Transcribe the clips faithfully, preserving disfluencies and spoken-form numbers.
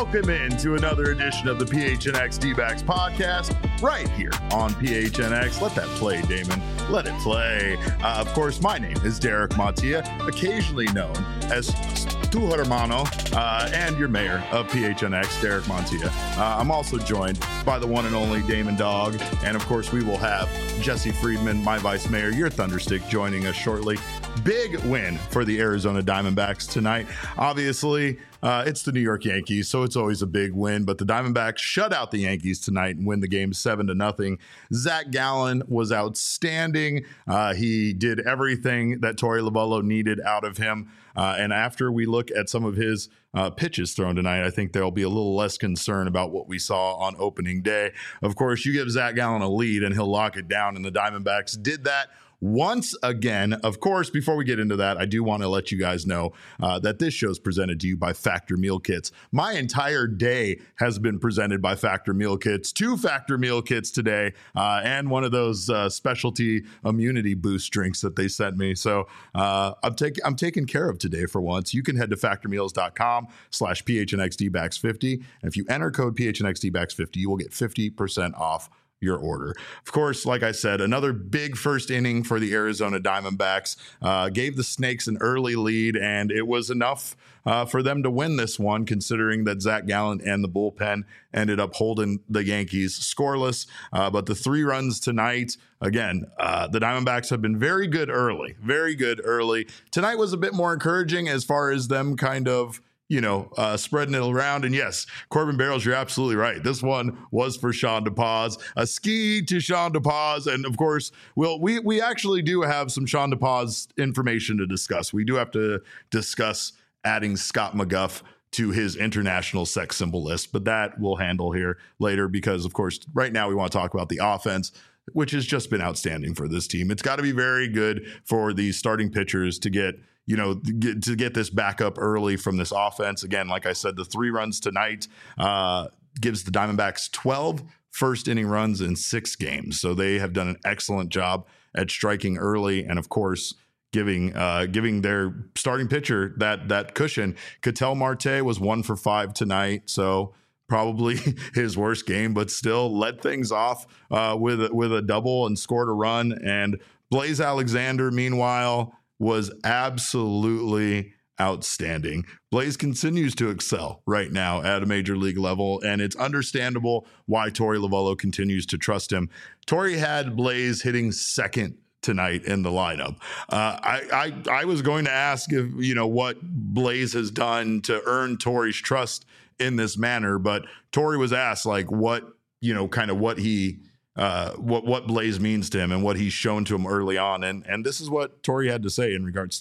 Welcome in to another edition of the P H N X D-Backs podcast right here on P H N X. Let that play, Damon. Let it play. Uh, of course, my name is Derek Montia, occasionally known as Tu Hermano, uh, and your mayor of P H N X, Derek Montia. Uh, I'm also joined by the one and only Damon Dog, and of course, we will have Jesse Friedman, my vice mayor, your Thunderstick, joining us shortly. Big win for the Arizona Diamondbacks tonight. Obviously, uh, it's the New York Yankees, so it's always a big win. But the Diamondbacks shut out the Yankees tonight and win the game seven to nothing. Zach Gallen was outstanding. Uh, he did everything that Torey Lovullo needed out of him. Uh, and after we look at some of his uh, pitches thrown tonight, I think there'll be a little less concern about what we saw on opening day. Of course, you give Zach Gallen a lead and he'll lock it down, and the Diamondbacks did that once again. Of course, before we get into that, I do want to let you guys know uh, that this show is presented to you by Factor Meal Kits. My entire day has been presented by Factor Meal Kits. Two Factor Meal Kits today, uh, and one of those uh, specialty immunity boost drinks that they sent me. So uh, I'm taking I'm taken care of today for once. You can head to factormeals.com slash PHNXDBacks50. And if you enter code PHNXDBacks50, you will get fifty percent off your order. Of course, like I said, another big first inning for the Arizona Diamondbacks. Uh, gave the Snakes an early lead, and it was enough uh, for them to win this one, considering that Zach Gallen and the bullpen ended up holding the Yankees scoreless. Uh, but the three runs tonight, again, uh, the Diamondbacks have been very good early, very good early. Tonight was a bit more encouraging as far as them kind of you know, uh, spreading it around. And yes, Corbin Barrows, you're absolutely right. This one was for Sean DePaz, a ski to Sean DePaz. And of course, we'll, we, we actually do have some Sean DePaz information to discuss. We do have to discuss adding Scott McGough to his international sex symbol list, but that we'll handle here later because, of course, right now we want to talk about the offense, which has just been outstanding for this team. It's got to be very good for the starting pitchers to get you know, get, to get this back up early from this offense. Again, like I said, the three runs tonight uh, gives the Diamondbacks twelve first inning runs in six games. So they have done an excellent job at striking early. And of course, giving uh, giving their starting pitcher that that cushion. Ketel Marte was one for five tonight. So probably his worst game, but still led things off uh, with, with a double and scored a run. And Blaze Alexander, meanwhile, was absolutely outstanding. Blaze continues to excel right now at a major league level, and it's understandable why Torey Lovullo continues to trust him. Torey had Blaze hitting second tonight in the lineup. Uh, I, I I was going to ask if you know what Blaze has done to earn Torey's trust in this manner, but Torey was asked like what you know kind of what he. Uh, what what Blaze means to him and what he's shown to him early on, and and this is what Torey had to say in regards to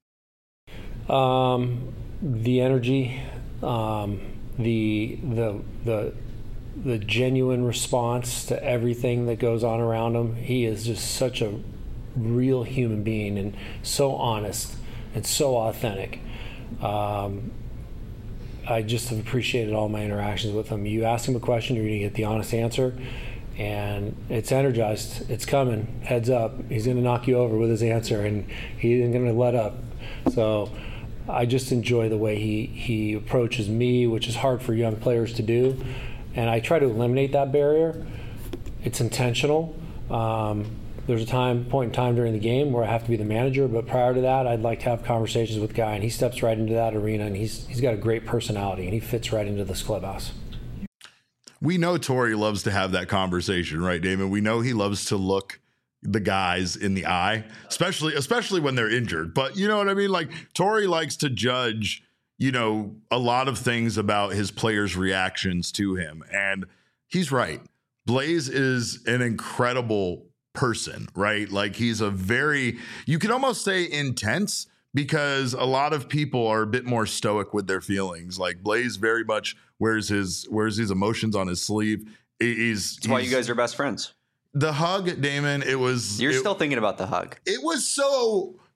that. Um, the energy, um, the the the the genuine response to everything that goes on around him. He is just such a real human being and so honest and so authentic. Um, I just have appreciated all my interactions with him. You ask him a question, you're going to get the honest answer. And it's energized. It's coming. Heads up. He's going to knock you over with his answer, and he isn't going to let up. So I just enjoy the way he, he approaches me, which is hard for young players to do. And I try to eliminate that barrier. It's intentional. Um, there's a time point in time during the game where I have to be the manager, but prior to that, I'd like to have conversations with the guy, and he steps right into that arena, and he's he's got a great personality, and he fits right into this clubhouse. We know Torey loves to have that conversation, right, Damon? We know he loves to look the guys in the eye, especially especially when they're injured. But you know what I mean? Like Torey likes to judge, you know, a lot of things about his players' reactions to him. And he's right. Blaze is an incredible person, right? Like he's a very, you could almost say intense, because a lot of people are a bit more stoic with their feelings. Like Blaze very much wears his wears his emotions on his sleeve. He's, That's why you guys are best friends. The hug, Damon, it was... You're it, still thinking about the hug. It was so...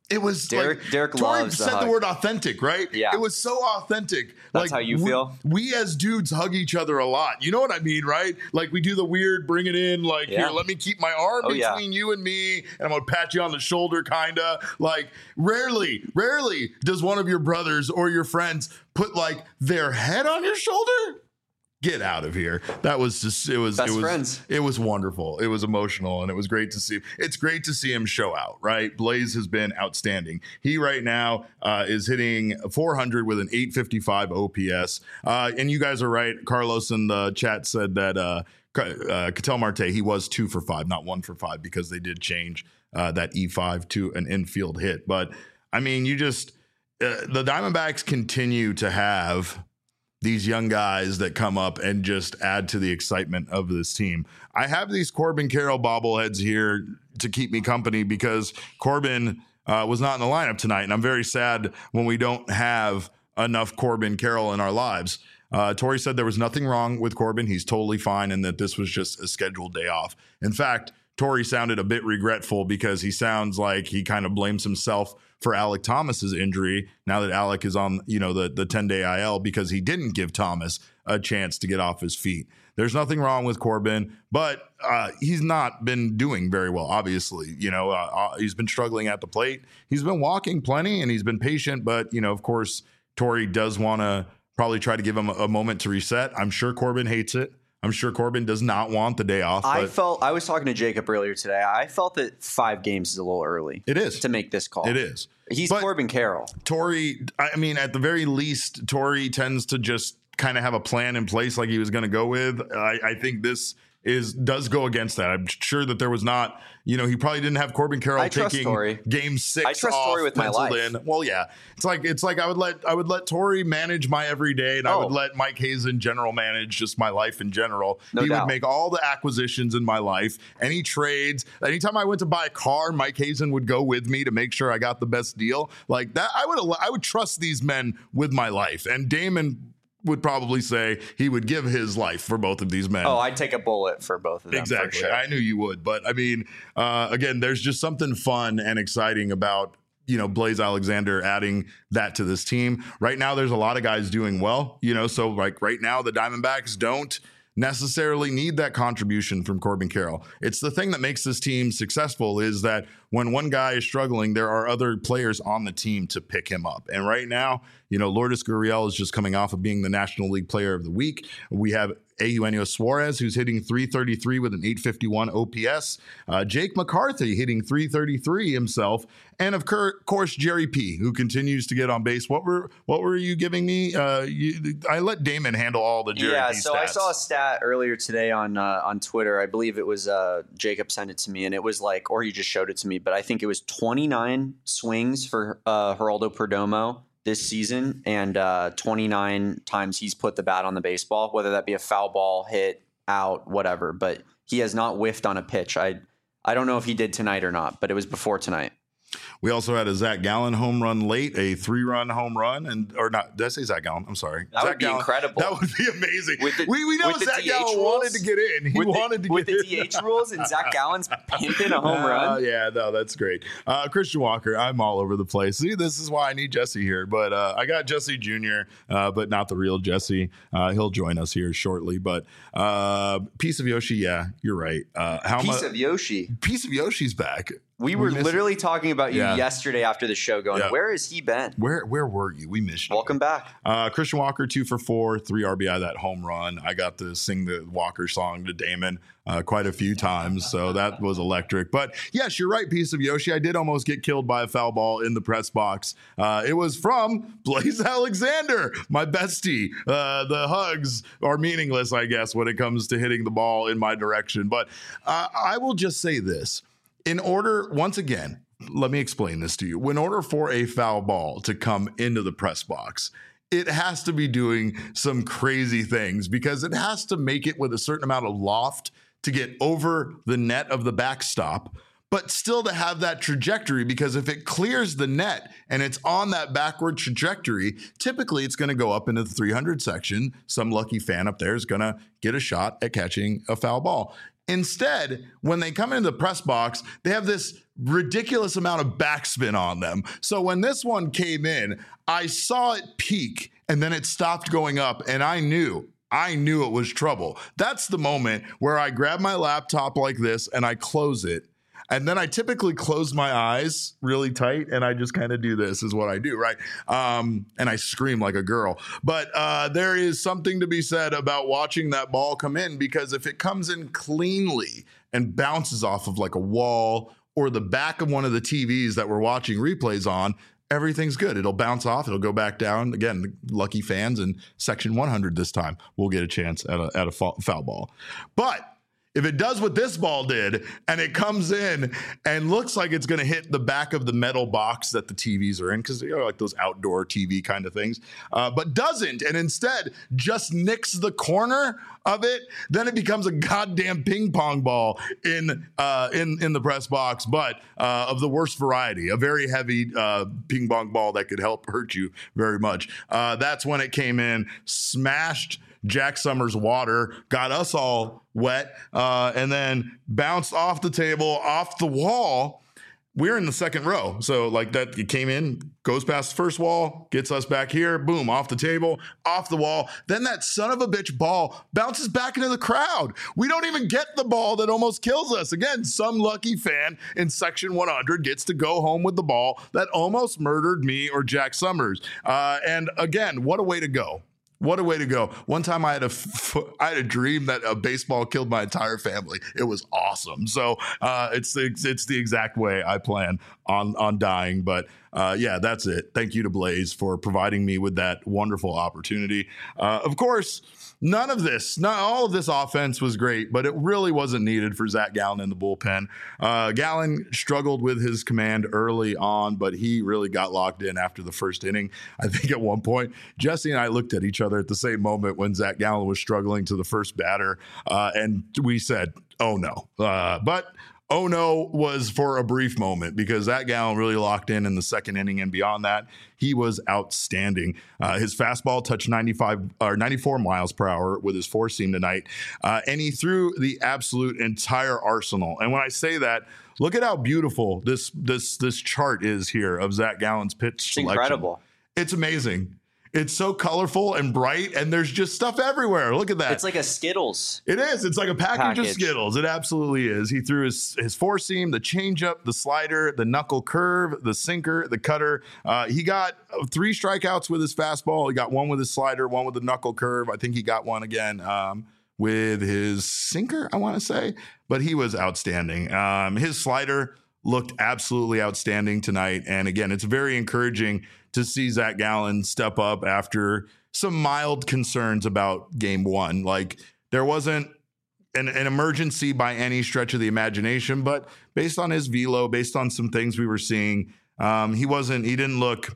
It was Derek. like, Derek Tori loves the said hug. the word authentic, right? Yeah. It was so authentic. That's like, how you we, feel? We as dudes hug each other a lot. You know what I mean, right? Like we do the weird, bring it in, like, Yeah. here, let me keep my arm Oh, yeah. between you and me, and I'm gonna pat you on the shoulder, kinda. Like, rarely, rarely does one of your brothers or your friends put like their head on your shoulder. Get out of here. That was just, it was, Best it was, friends. it was wonderful. It was emotional and it was great to see. It's great to see him show out, right? Blaze has been outstanding. He right now uh, is hitting four hundred with an eight fifty-five O P S. Uh, and you guys are right. Carlos in the chat said that uh, uh, Ketel Marte, he was two for five, not one for five, because they did change uh, that E five to an infield hit. But I mean, you just, uh, the Diamondbacks continue to have these young guys that come up and just add to the excitement of this team. I have these Corbin Carroll bobbleheads here to keep me company because Corbin uh, was not in the lineup tonight, and I'm very sad when we don't have enough Corbin Carroll in our lives. Uh, Tori said there was nothing wrong with Corbin. He's totally fine, and that this was just a scheduled day off. In fact, Tori sounded a bit regretful because he sounds like he kind of blames himself for Alek Thomas's injury now that Alek is on, you know, the the ten-day I L because he didn't give Thomas a chance to get off his feet. There's nothing wrong with Corbin, but uh, he's not been doing very well, obviously. You know, uh, uh, he's been struggling at the plate. He's been walking plenty, and he's been patient, but, you know, of course, Tori does want to probably try to give him a, a moment to reset. I'm sure Corbin hates it. I'm sure Corbin does not want the day off. I felt I was talking to Jacob earlier today. I felt that five games is a little early. It is to make this call. It is. He's But Corbin Carroll. Tori, I mean, at the very least, Tori tends to just kind of have a plan in place like he was going to go with. I, I think this is does go against that. I'm sure that there was not, you know, he probably didn't have Corbin Carroll I trust taking Tori. game six I trust off, Tori with my penciled life. in. Well, yeah, it's like it's like I would let I would let Tori manage my everyday, and I Oh. would let Mike Hazen general manage just my life in general. No he doubt. would make all the acquisitions in my life, any trades. Anytime I went to buy a car, Mike Hazen would go with me to make sure I got the best deal. Like that, I would I would trust these men with my life, and Damon would probably say he would give his life for both of these men. Oh, I'd take a bullet for both of them. Exactly. For sure. I knew you would. But I mean, uh, again, there's just something fun and exciting about, you know, Blaze Alexander adding that to this team. Right now, there's a lot of guys doing well, you know, so like right now, the Diamondbacks don't necessarily need that contribution from Corbin Carroll. It's the thing that makes this team successful is that when one guy is struggling, there are other players on the team to pick him up. And right now, you know, Lourdes Gurriel is just coming off of being the National League Player of the Week. We have Eugenio Suarez, who's hitting three thirty-three with an eight fifty-one O P S. Uh, Jake McCarthy hitting three thirty-three himself. And of course, Jerry P, who continues to get on base. What were what were you giving me? Uh, you, I let Damon handle all the Jerry yeah, P so stats. I saw a stat earlier today on uh, on Twitter. I believe it was uh, Jacob sent it to me, and it was like, or he just showed it to me, but I think it was twenty-nine swings for uh, Geraldo Perdomo this season, and uh, twenty-nine times he's put the bat on the baseball, whether that be a foul ball, hit, out, whatever. But he has not whiffed on a pitch. I I don't know if he did tonight or not, but it was before tonight. We also had a Zach Gallen home run late, a three-run home run, and or not? Did I say Zach Gallen? I'm sorry. That Zach would be Gallen, incredible. That would be amazing. With the- we we know with the Zach D H Gallen rules? wanted to get in. He with wanted the, to with get the in. D H rules and Zach Gallen's pimping a home Uh, run. yeah, no, that's great. Uh, Christian Walker, I'm all over the place. See, this is why I need Jesse here. But uh, I got Jesse Junior, uh, but not the real Jesse. Uh, he'll join us here shortly. But uh, Piece of Yoshi, yeah, you're right. Uh, how Piece much? of Yoshi. Piece of Yoshi's back. We were missed- literally talking about you Yeah. yesterday after the show going, Yeah. where has he been? Where where were you? We missed you. Welcome back. Uh, Christian Walker, two for four, three R B I, that home run. I got to sing the Walker song to Damon uh, quite a few times, so that was electric. But yes, you're right, Piece of Yoshi. I did almost get killed by a foul ball in the press box. Uh, it was from Blaze Alexander, my bestie. Uh, the hugs are meaningless, I guess, when it comes to hitting the ball in my direction. But uh, I will just say this. In order, once again, let me explain this to you. In order for a foul ball to come into the press box, it has to be doing some crazy things because it has to make it with a certain amount of loft to get over the net of the backstop, but still to have that trajectory, because if it clears the net and it's on that backward trajectory, typically it's going to go up into the three hundred section. Some lucky fan up there is going to get a shot at catching a foul ball. Instead, when they come into the press box, they have this ridiculous amount of backspin on them. So when this one came in, I saw it peak and then it stopped going up, and I knew, I knew it was trouble. That's the moment where I grab my laptop like this and I close it. And then I typically close my eyes really tight and I just kind of do this is what I do, right? Um, and I scream like a girl. But uh, there is something to be said about watching that ball come in, because if it comes in cleanly and bounces off of like a wall or the back of one of the T Vs that we're watching replays on, everything's good. It'll bounce off. It'll go back down. Again, lucky fans in section one hundred this time will get a chance at a, at a foul ball. But if it does what this ball did and it comes in and looks like it's going to hit the back of the metal box that the T Vs are in, because they're like those outdoor T V kind of things, uh, but doesn't, and instead just nicks the corner of it, then it becomes a goddamn ping pong ball in uh, in in the press box, but uh, of the worst variety, a very heavy uh, ping pong ball that could help hurt you very much. Uh, that's when it came in, smashed Jack Summers' water, got us all wet, uh, and then bounced off the table, off the wall. We're in the second row. So like that, it came in, goes past the first wall, gets us back here, boom, off the table, off the wall. Then that son of a bitch ball bounces back into the crowd. We don't even get the ball that almost kills us. Again, some lucky fan in section one hundred gets to go home with the ball that almost murdered me or Jack Summers. Uh, and again, what a way to go. What a way to go. One time I had a, f- I had a dream that a baseball killed my entire family. It was awesome. So uh, it's, the, it's the exact way I plan on, on dying. But uh, yeah, that's it. Thank you to Blaze for providing me with that wonderful opportunity. Uh, of course, none of this, not all of this offense was great, but it really wasn't needed for Zach Gallen in the bullpen. Uh, Gallen struggled with his command early on, but he really got locked in after the first inning. I think at one point, Jesse and I looked at each other at the same moment when Zach Gallen was struggling to the first batter, uh, and we said, oh no. Uh, but oh no was for a brief moment, because Zach Gallen really locked in in the second inning, and beyond that, he was outstanding. Uh, his fastball touched ninety-five or ninety-four miles per hour with his four seam tonight, uh, and he threw the absolute entire arsenal. And when I say that, look at how beautiful this this this chart is here of Zach Gallen's pitch It's selection. incredible. It's amazing. It's so colorful and bright, and there's just stuff everywhere. Look at that. It's like a Skittles. It is. It's like a package, Package. of Skittles. It absolutely is. He threw his, his four seam, the changeup, the slider, the knuckle curve, the sinker, the cutter. Uh, he got three strikeouts with his fastball. He got one with his slider, one with the knuckle curve. I think he got one again um, with his sinker, I want to say. But he was outstanding. Um, his slider looked absolutely outstanding tonight. And again, it's very encouraging to see Zach Gallen step up after some mild concerns about game one. Like, there wasn't an, an emergency by any stretch of the imagination, but based on his velo, based on some things we were seeing, um, he wasn't, he didn't look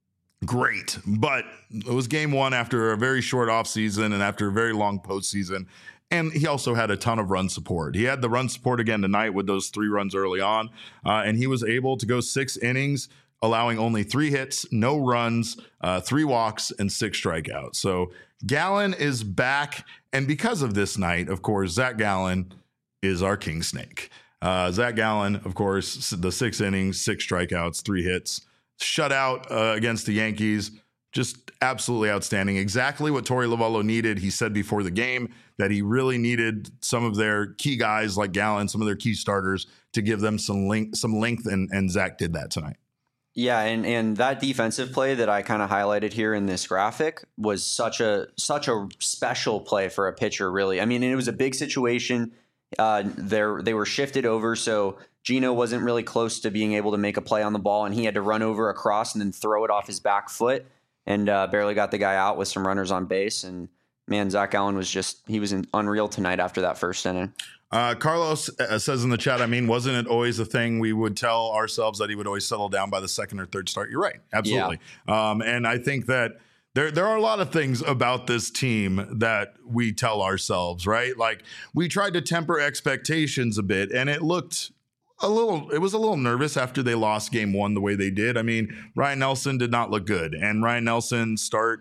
great, but it was game one after a very short offseason and after a very long postseason. And he also had a ton of run support. He had the run support again tonight with those three runs early on, uh, and he was able to go six innings, allowing only three hits, no runs, uh, three walks, and six strikeouts. So Gallen is back, and because of this night, of course, Zach Gallen is our king snake. Uh, Zach Gallen, of course, the six innings, six strikeouts, three hits, shutout uh, against the Yankees. Just absolutely outstanding. Exactly what Torey Lovullo needed. He said before the game that he really needed some of their key guys like Gallen, some of their key starters, to give them some length, some length, and, and Zach did that tonight. Yeah, and, and that defensive play that I kind of highlighted here in this graphic was such a such a special play for a pitcher, really. I mean, it was a big situation. Uh, they they were shifted over, so Gino wasn't really close to being able to make a play on the ball, and he had to run over across and then throw it off his back foot, and uh, barely got the guy out with some runners on base. And man, Zach Gallen was just, he was in, unreal tonight after that first inning. Uh, Carlos uh, says in the chat, I mean, wasn't it always a thing we would tell ourselves that he would always settle down by the second or third start? You're right. Absolutely. Yeah. Um, and I think that there, there are a lot of things about this team that we tell ourselves, right? Like, we tried to temper expectations a bit, and it looked a little, it was a little nervous after they lost game one the way they did. I mean, Ryan Nelson did not look good, and Ryan Nelson's start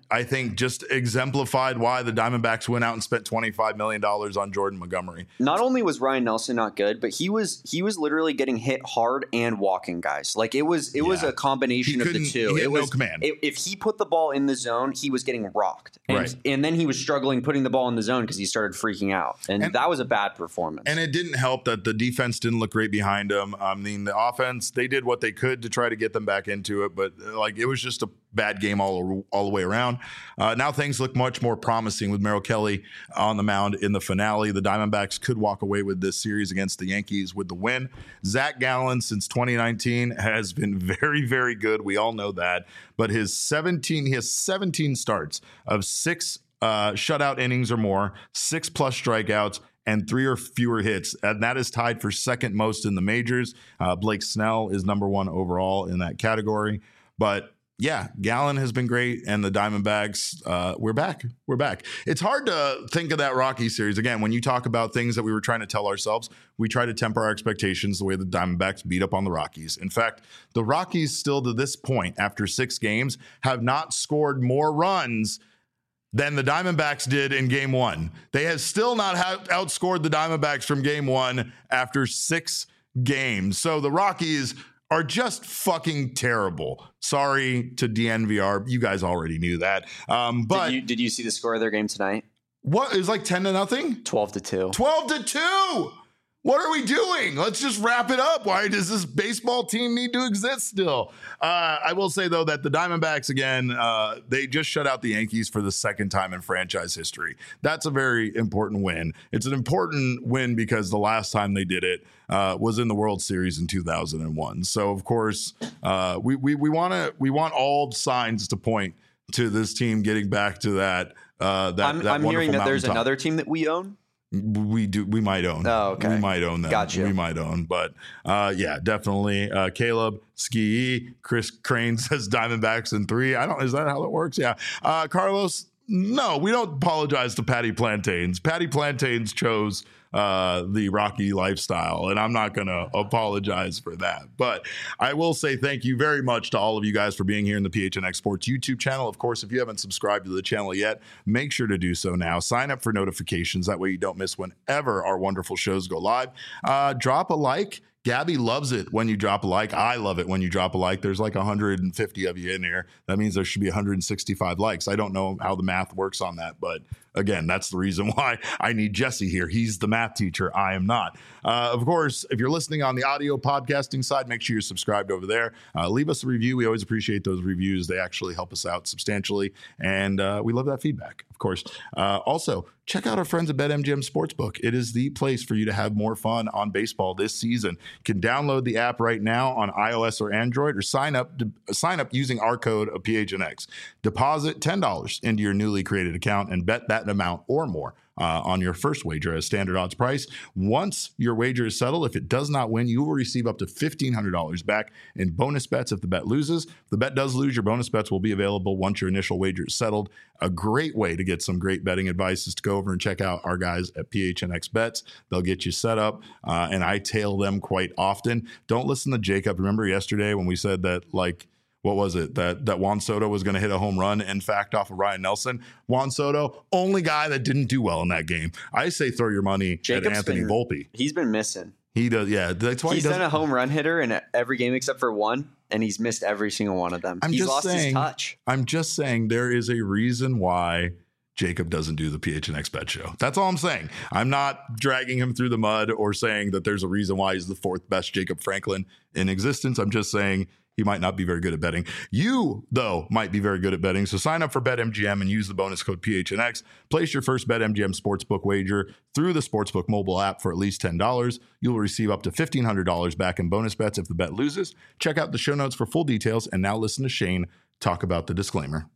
I think just exemplified why the Diamondbacks went out and spent twenty-five million dollars on Jordan Montgomery. Not only was Ryan Nelson not good, but he was he was literally getting hit hard and walking guys. Like it was it yeah. was a combination of the two. He had it was no command. It, if he put the ball in the zone, he was getting rocked, and, right. and then he was struggling putting the ball in the zone because he started freaking out, and, and that was a bad performance. And it didn't help that the defense didn't look great behind him. I mean, the offense, they did what they could to try to get them back into it, but like it was just a bad game all all the way around. Uh, now things look much more promising with Merrill Kelly on the mound in the finale. The Diamondbacks could walk away with this series against the Yankees with the win. Zach Gallen since twenty nineteen has been very, very good. We all know that. But his seventeen, he has seventeen starts of six uh, shutout innings or more, six plus strikeouts, and three or fewer hits. And that is tied for second most in the majors. Uh, Blake Snell is number one overall in that category. But yeah, Gallen has been great, and the Diamondbacks, uh, we're back. We're back. It's hard to think of that Rocky series. Again, when you talk about things that we were trying to tell ourselves, we try to temper our expectations the way the Diamondbacks beat up on the Rockies. In fact, the Rockies still to this point, after six games, have not scored more runs than the Diamondbacks did in game one. They have still not ha- outscored the Diamondbacks from game one after six games. So the Rockies are just fucking terrible. Sorry to D N V R. You guys already knew that. Um, but did you, did you see the score of their game tonight? What? It was like ten to nothing? twelve to two. twelve to two. What are we doing? Let's just wrap it up. Why does this baseball team need to exist still? Uh, I will say, though, that the Diamondbacks, again, uh, they just shut out the Yankees for the second time in franchise history. That's a very important win. It's an important win because the last time they did it uh, was in the World Series in two thousand one. So, of course, uh, we we we want to we want all signs to point to this team getting back to that. Uh, that I'm, that I'm hearing that there's top. another team that we own. We do. We might own. Oh, okay. We might own them. Gotcha. We might own. But uh, yeah, definitely. Uh, Caleb Ski, Chris Crane says Diamondbacks in three. I don't. Is that how it works? Yeah. Uh, Carlos. No, we don't apologize to Patty Plantains. Patty Plantains chose uh, the Rocky lifestyle, and I'm not going to apologize for that. But I will say thank you very much to all of you guys for being here in the P H N X Sports YouTube channel. Of course, if you haven't subscribed to the channel yet, make sure to do so now. Sign up for notifications. That way you don't miss whenever our wonderful shows go live. Uh, drop a like. Gabby loves it when you drop a like. I love it when you drop a like. There's like one hundred fifty of you in here. That means there should be one hundred sixty-five likes. I don't know how the math works on that, but again, that's the reason why I need Jesse here. He's the math teacher. I am not. Uh, of course, if you're listening on the audio podcasting side, make sure you're subscribed over there. Uh, leave us a review. We always appreciate those reviews. They actually help us out substantially, and uh, we love that feedback, of course. Uh, also, check out our friends at BetMGM Sportsbook. It is the place for you to have more fun on baseball this season. You can download the app right now on iOS or Android, or sign up to, sign up using our code of P H N X. Deposit ten dollars into your newly created account and bet that amount or more uh, on your first wager at a standard odds price. Once your wager is settled, if it does not win, you will receive up to fifteen hundred dollars back in bonus bets if the bet loses. If the bet does lose, your bonus bets will be available once your initial wager is settled. A great way to get some great betting advice is to go over and check out our guys at P H N X Bets. They'll get you set up, uh, and I tail them quite often. Don't listen to Jacob. Remember yesterday when we said that, like, what was it? That that Juan Soto was going to hit a home run, in fact, off of Ryan Nelson. Juan Soto, only guy that didn't do well in that game. I say throw your money Jacob's at Anthony been, Volpe. He's been missing. He does, yeah. That's why he's he been a home run hitter in every game except for one, and he's missed every single one of them. I'm he's just lost saying, his touch. I'm just saying there is a reason why Jacob doesn't do the P H N X Bet Show. That's all I'm saying. I'm not dragging him through the mud or saying that there's a reason why he's the fourth best Jacob Franklin in existence. I'm just saying he might not be very good at betting. You, though, might be very good at betting. So sign up for BetMGM and use the bonus code P H N X. Place your first BetMGM Sportsbook wager through the Sportsbook mobile app for at least ten dollars. You'll receive up to fifteen hundred dollars back in bonus bets if the bet loses. Check out the show notes for full details. And now listen to Shane talk about the disclaimer.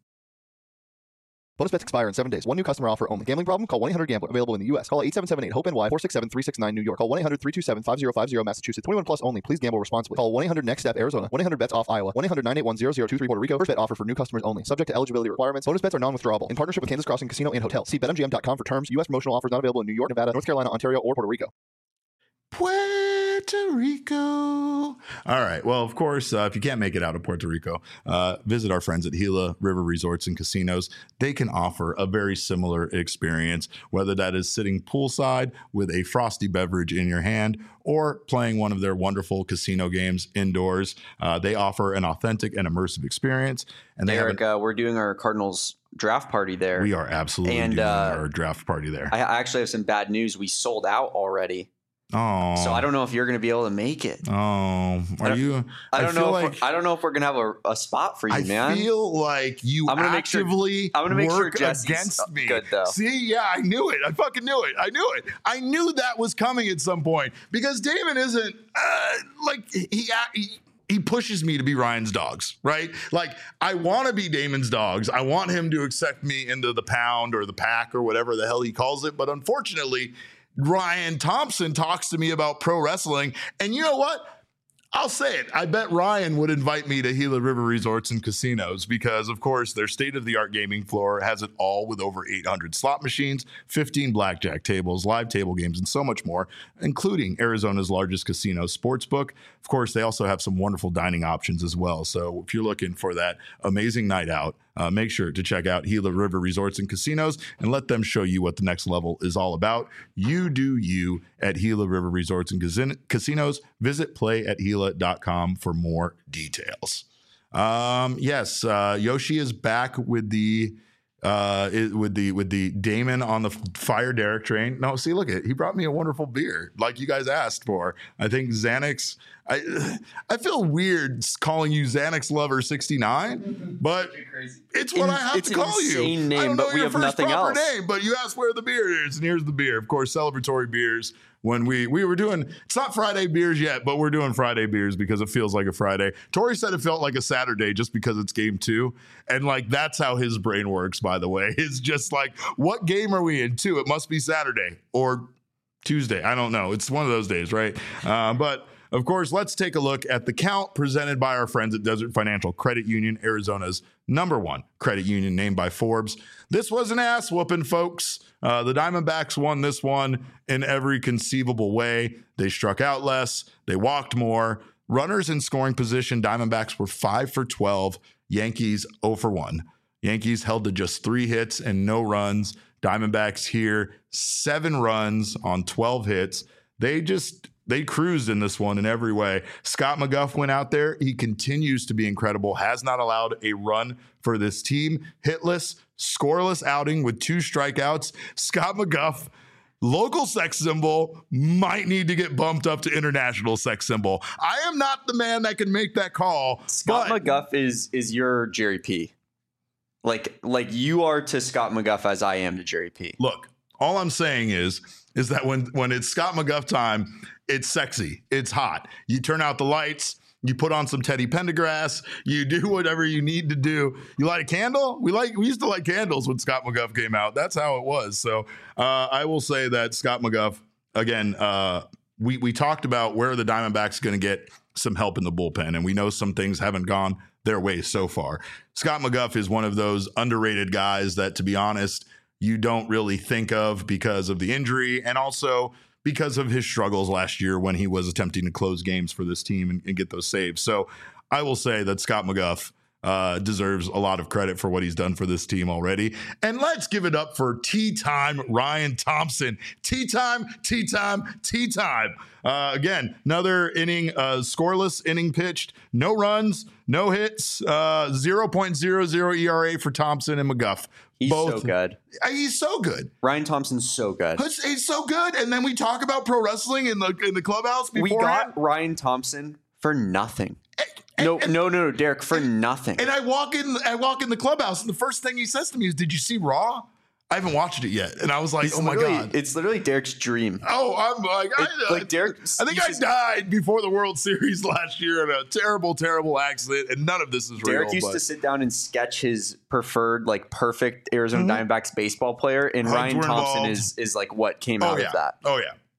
Bonus bets expire in seven days. One new customer offer only. Gambling problem? Call one eight hundred gambler. Available in the U S. Call eight seven seven eight hope N Y four six seven three six nine New York. Call one eight hundred three two seven five zero five zero Massachusetts. twenty-one plus only. Please gamble responsibly. Call one eight hundred next step Arizona. one eight hundred bets off Iowa. one eight hundred nine eight one zero zero two three Puerto Rico. First bet offer for new customers only. Subject to eligibility requirements. Bonus bets are non-withdrawable. In partnership with Kansas Crossing Casino and Hotel. See bet M G M dot com for terms. U S promotional offers not available in New York, Nevada, North Carolina, Ontario, or Puerto Rico. Puerto Rico. All right. Well, of course, uh, if you can't make it out of Puerto Rico, uh, visit our friends at Gila River Resorts and Casinos. They can offer a very similar experience, whether that is sitting poolside with a frosty beverage in your hand or playing one of their wonderful casino games indoors. Uh, they offer an authentic and immersive experience. And they Eric, have an, uh, we're doing our Cardinals draft party there. we are absolutely and, doing uh, our draft party there. I I actually have some bad news. We sold out already. Oh, So I don't know if you're going to be able to make it. Oh, are I don't- you? I don't feel know. If like we're, I don't know if we're going to have a, a spot for you, I man. feel like you I'm gonna make sure- actively I'm gonna make sure work Jesse's against me. good, though. See, yeah, I knew it. I fucking knew it. I knew it. I knew that was coming at some point because Damon isn't uh, like he. he He pushes me to be Ryan's dogs, right? Like, I want to be Damon's dogs. I want him to accept me into the pound or the pack or whatever the hell he calls it. But unfortunately, Ryan Thompson talks to me about pro wrestling. And you know what? I'll say it. I bet Ryan would invite me to Gila River Resorts and Casinos because, of course, their state-of-the-art gaming floor has it all with over eight hundred slot machines, fifteen blackjack tables, live table games, and so much more, including Arizona's largest casino sportsbook. Of course, they also have some wonderful dining options as well. So if you're looking for that amazing night out, uh, make sure to check out Gila River Resorts and Casinos and let them show you what the next level is all about. You do you at Gila River Resorts and Casin- Casinos. Visit play at gila dot com for more details. Um, yes, uh, Yoshi is back with the uh, it, with the with the Damon on the Fire Derek train. No, see, look at it. He brought me a wonderful beer, like you guys asked for. I think Xanax. I I feel weird calling you Xanax Lover sixty-nine, but it's what In- I have it's to an call you. insane name, I don't know but we your have first nothing proper else. name, but you asked where the beer is, and here's the beer. Of course, celebratory beers. When we we were doing, it's not Friday beers yet, but we're doing Friday beers because it feels like a Friday. Tori said it felt like a Saturday just because it's game two. And like, that's how his brain works, by the way. It's just like, what game are we in? Two. It must be Saturday or Tuesday. I don't know. It's one of those days, right? Uh, but of course, let's take a look at the count presented by our friends at Desert Financial Credit Union, Arizona's number one credit union named by Forbes. This was an ass whooping, folks. Uh, the Diamondbacks won this one in every conceivable way. They struck out less. They walked more. Runners in scoring position, Diamondbacks were five for twelve. Yankees zero for one. Yankees held to just three hits and no runs. Diamondbacks here, seven runs on twelve hits. They just... They cruised in this one in every way. Scott McGough went out there. He continues to be incredible, has not allowed a run for this team. Hitless, scoreless outing with two strikeouts. Scott McGough, local sex symbol, might need to get bumped up to international sex symbol. I am not the man that can make that call. Scott but McGough is is your Jerry P. Like like you are to Scott McGough as I am to Jerry P. Look, all I'm saying is, is that when, when it's Scott McGough time, it's sexy. It's hot. You turn out the lights. You put on some Teddy Pendergrass. You do whatever you need to do. You light a candle. We like we used to light candles when Scott McGough came out. That's how it was. So uh, I will say that Scott McGough, again, uh, we we talked about where the Diamondbacks going to get some help in the bullpen, and we know some things haven't gone their way so far. Scott McGough is one of those underrated guys that, to be honest, you don't really think of because of the injury and also because of his struggles last year when he was attempting to close games for this team and, and get those saves. So I will say that Scott McGough uh, deserves a lot of credit for what he's done for this team already. And let's give it up for tea time Ryan Thompson. Tea time, tea time, tea time. Uh, again, another inning, uh, scoreless inning pitched, no runs, no hits, uh, zero point zero zero E R A for Thompson and McGough. He's Both. so good. Uh, He's so good. Ryan Thompson's so good. He's, he's so good. And then we talk about pro wrestling in the in the clubhouse We beforehand. got Ryan Thompson for nothing. And- No, and- no, no, no, Derek, for nothing. And I walk in, I walk in the clubhouse, and the first thing he says to me is, "Did you see Raw?" I haven't watched it yet, and I was like, It's "Oh my literally- god!" It's literally Derek's dream. Oh, I'm like, I, It- like Derek, I think you I should- died before the World Series last year in a terrible, terrible accident, and none of this is Derek real. used but to sit down and sketch his preferred, like, perfect Arizona Diamondbacks baseball player, and Hugs Ryan were Thompson involved. is is like what came oh out yeah, of that. oh yeah.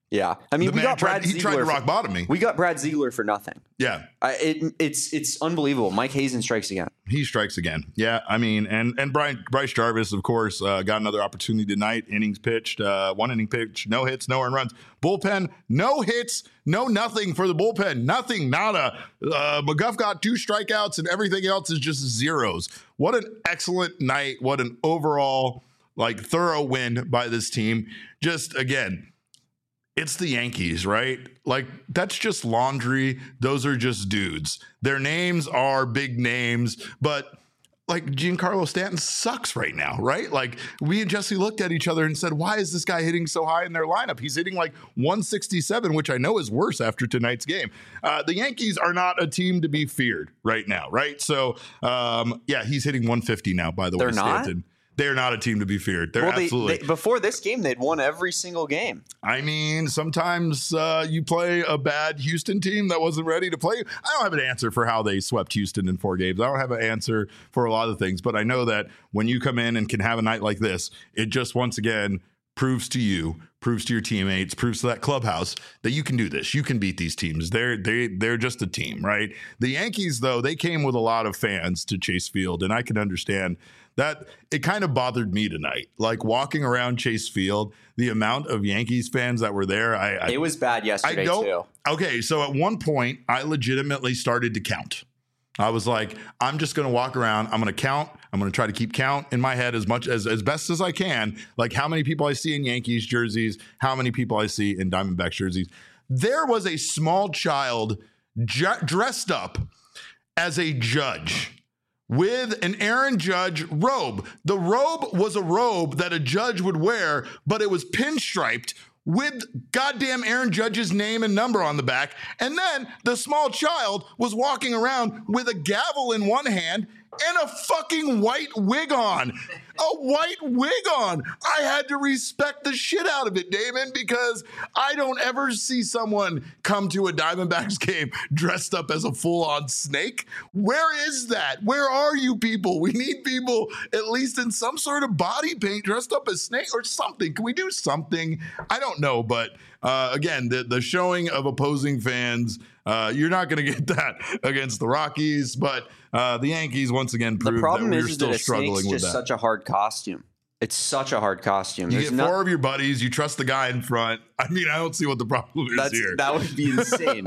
Yeah, I mean, The we man got tried, Brad he Ziegler. tried to rock for, bottom me. we got Brad Ziegler for nothing. Yeah. I, it, it's it's unbelievable. Mike Hazen strikes again. He strikes again. Yeah, I mean, and and Brian Bryce Jarvis, of course, uh, got another opportunity tonight. Innings pitched, uh, one inning pitch, no hits, no earned runs. Bullpen, no hits, no nothing for the bullpen. Nothing, nada. Uh, McGuff got two strikeouts, and everything else is just zeros. What an excellent night. What an overall, like, thorough win by this team. Just, again, it's the Yankees, right? Like, that's just laundry. Those are just dudes. Their names are big names, but like Giancarlo Stanton sucks right now, right? Like, we and Jesse looked at each other and said, why is this guy hitting so high in their lineup? He's hitting like one sixty-seven, which I know is worse after tonight's game. Uh, the Yankees are not a team to be feared right now, right? So, um, yeah, he's hitting one fifty now, by the They're way, not? Stanton. They're not a team to be feared. They're Well, they, absolutely. they, before this game, they'd won every single game. I mean, sometimes uh, you play a bad Houston team that wasn't ready to play. I don't have an answer for how they swept Houston in four games. I don't have an answer for a lot of things, but I know that when you come in and can have a night like this, it just once again proves to you, proves to your teammates, proves to that clubhouse that you can do this. You can beat these teams. They're they they're just a team, right? The Yankees, though, they came with a lot of fans to Chase Field, and I can understand that. It kind of bothered me tonight, like walking around Chase Field, the amount of Yankees fans that were there. I, I It was bad yesterday I don't, too. Okay, so at one point, I legitimately started to count. I was like, I'm just going to walk around. I'm going to count. I'm going to try to keep count in my head as much as as best as I can, like how many people I see in Yankees jerseys, how many people I see in Diamondbacks jerseys. There was a small child ju- dressed up as a judge with an Aaron Judge robe. The robe was a robe that a judge would wear, but it was pinstriped with goddamn Aaron Judge's name and number on the back. And then the small child was walking around with a gavel in one hand and a fucking white wig on. A white wig on. I had to respect the shit out of it, Damon, because I don't ever see someone come to a Diamondbacks game dressed up as a full-on snake. Where is that? Where are you people? We need people at least in some sort of body paint dressed up as snake or something. Can we do something? I don't know, but uh, again, the, the showing of opposing fans, uh, you're not going to get that against the Rockies, but uh, the Yankees once again proved The problem that we're is, is still that a struggling snake's with just that. such a hard costume. It's such a hard costume. You There's get no- four of your buddies. You trust the guy in front. I mean, I don't see what the problem is that's, here. that would be insane.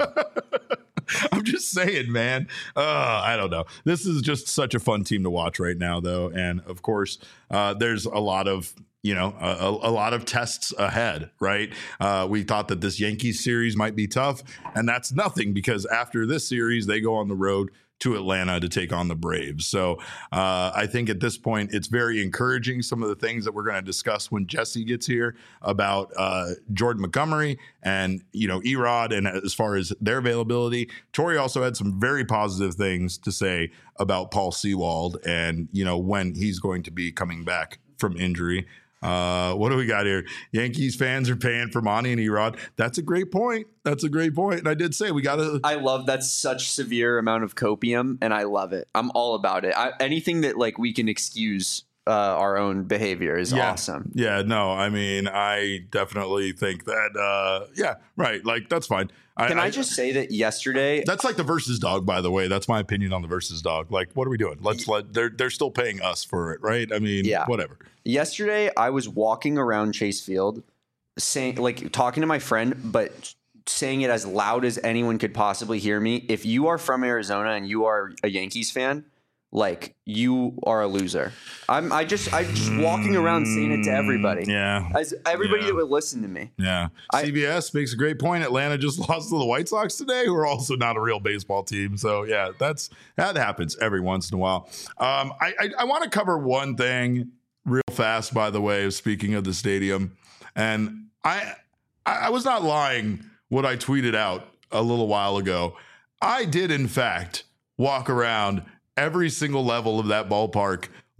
I'm just saying, man. Uh, I don't know. This is just such a fun team to watch right now, though. And of course, uh, there's a lot of, you know, a, a lot of tests ahead, right? Uh, we thought that this Yankees series might be tough, and that's nothing because after this series, they go on the road to Atlanta to take on the Braves. So uh, I think at this point, it's very encouraging, some of the things that we're going to discuss when Jesse gets here about uh, Jordan Montgomery and, you know, Erod and as far as their availability. Tori also had some very positive things to say about Paul Sewald and, you know, when he's going to be coming back from injury. Uh, what do we got here? Yankees fans are paying for Monty and Erod. That's a great point. That's a great point. And I did say we got to. I love that such severe amount of copium, and I love it. I'm all about it. I, anything that like we can excuse uh, our own behavior is yeah. awesome. Yeah, no, I mean, I definitely think that. Uh, yeah, right. Like that's fine. Can I, I just say that yesterday? That's like the versus dog, by the way. That's my opinion on the versus dog. Like, what are we doing? Let's let they're they're still paying us for it, right? I mean, Yeah. whatever. Yesterday, I was walking around Chase Field, saying like talking to my friend, but saying it as loud as anyone could possibly hear me. If you are from Arizona and you are a Yankees fan, like you are a loser. I'm I just I'm just walking around saying it to everybody. Yeah. As everybody Yeah. that would listen to me. Yeah. I- C B S makes a great point. Atlanta just lost to the White Sox today, who are also not a real baseball team. So yeah, that's that happens every once in a while. Um, I I, I want to cover one thing real fast, by the way, of speaking of the stadium. And I I was not lying what I tweeted out a little while ago. I did, in fact, walk around every single level of that ballpark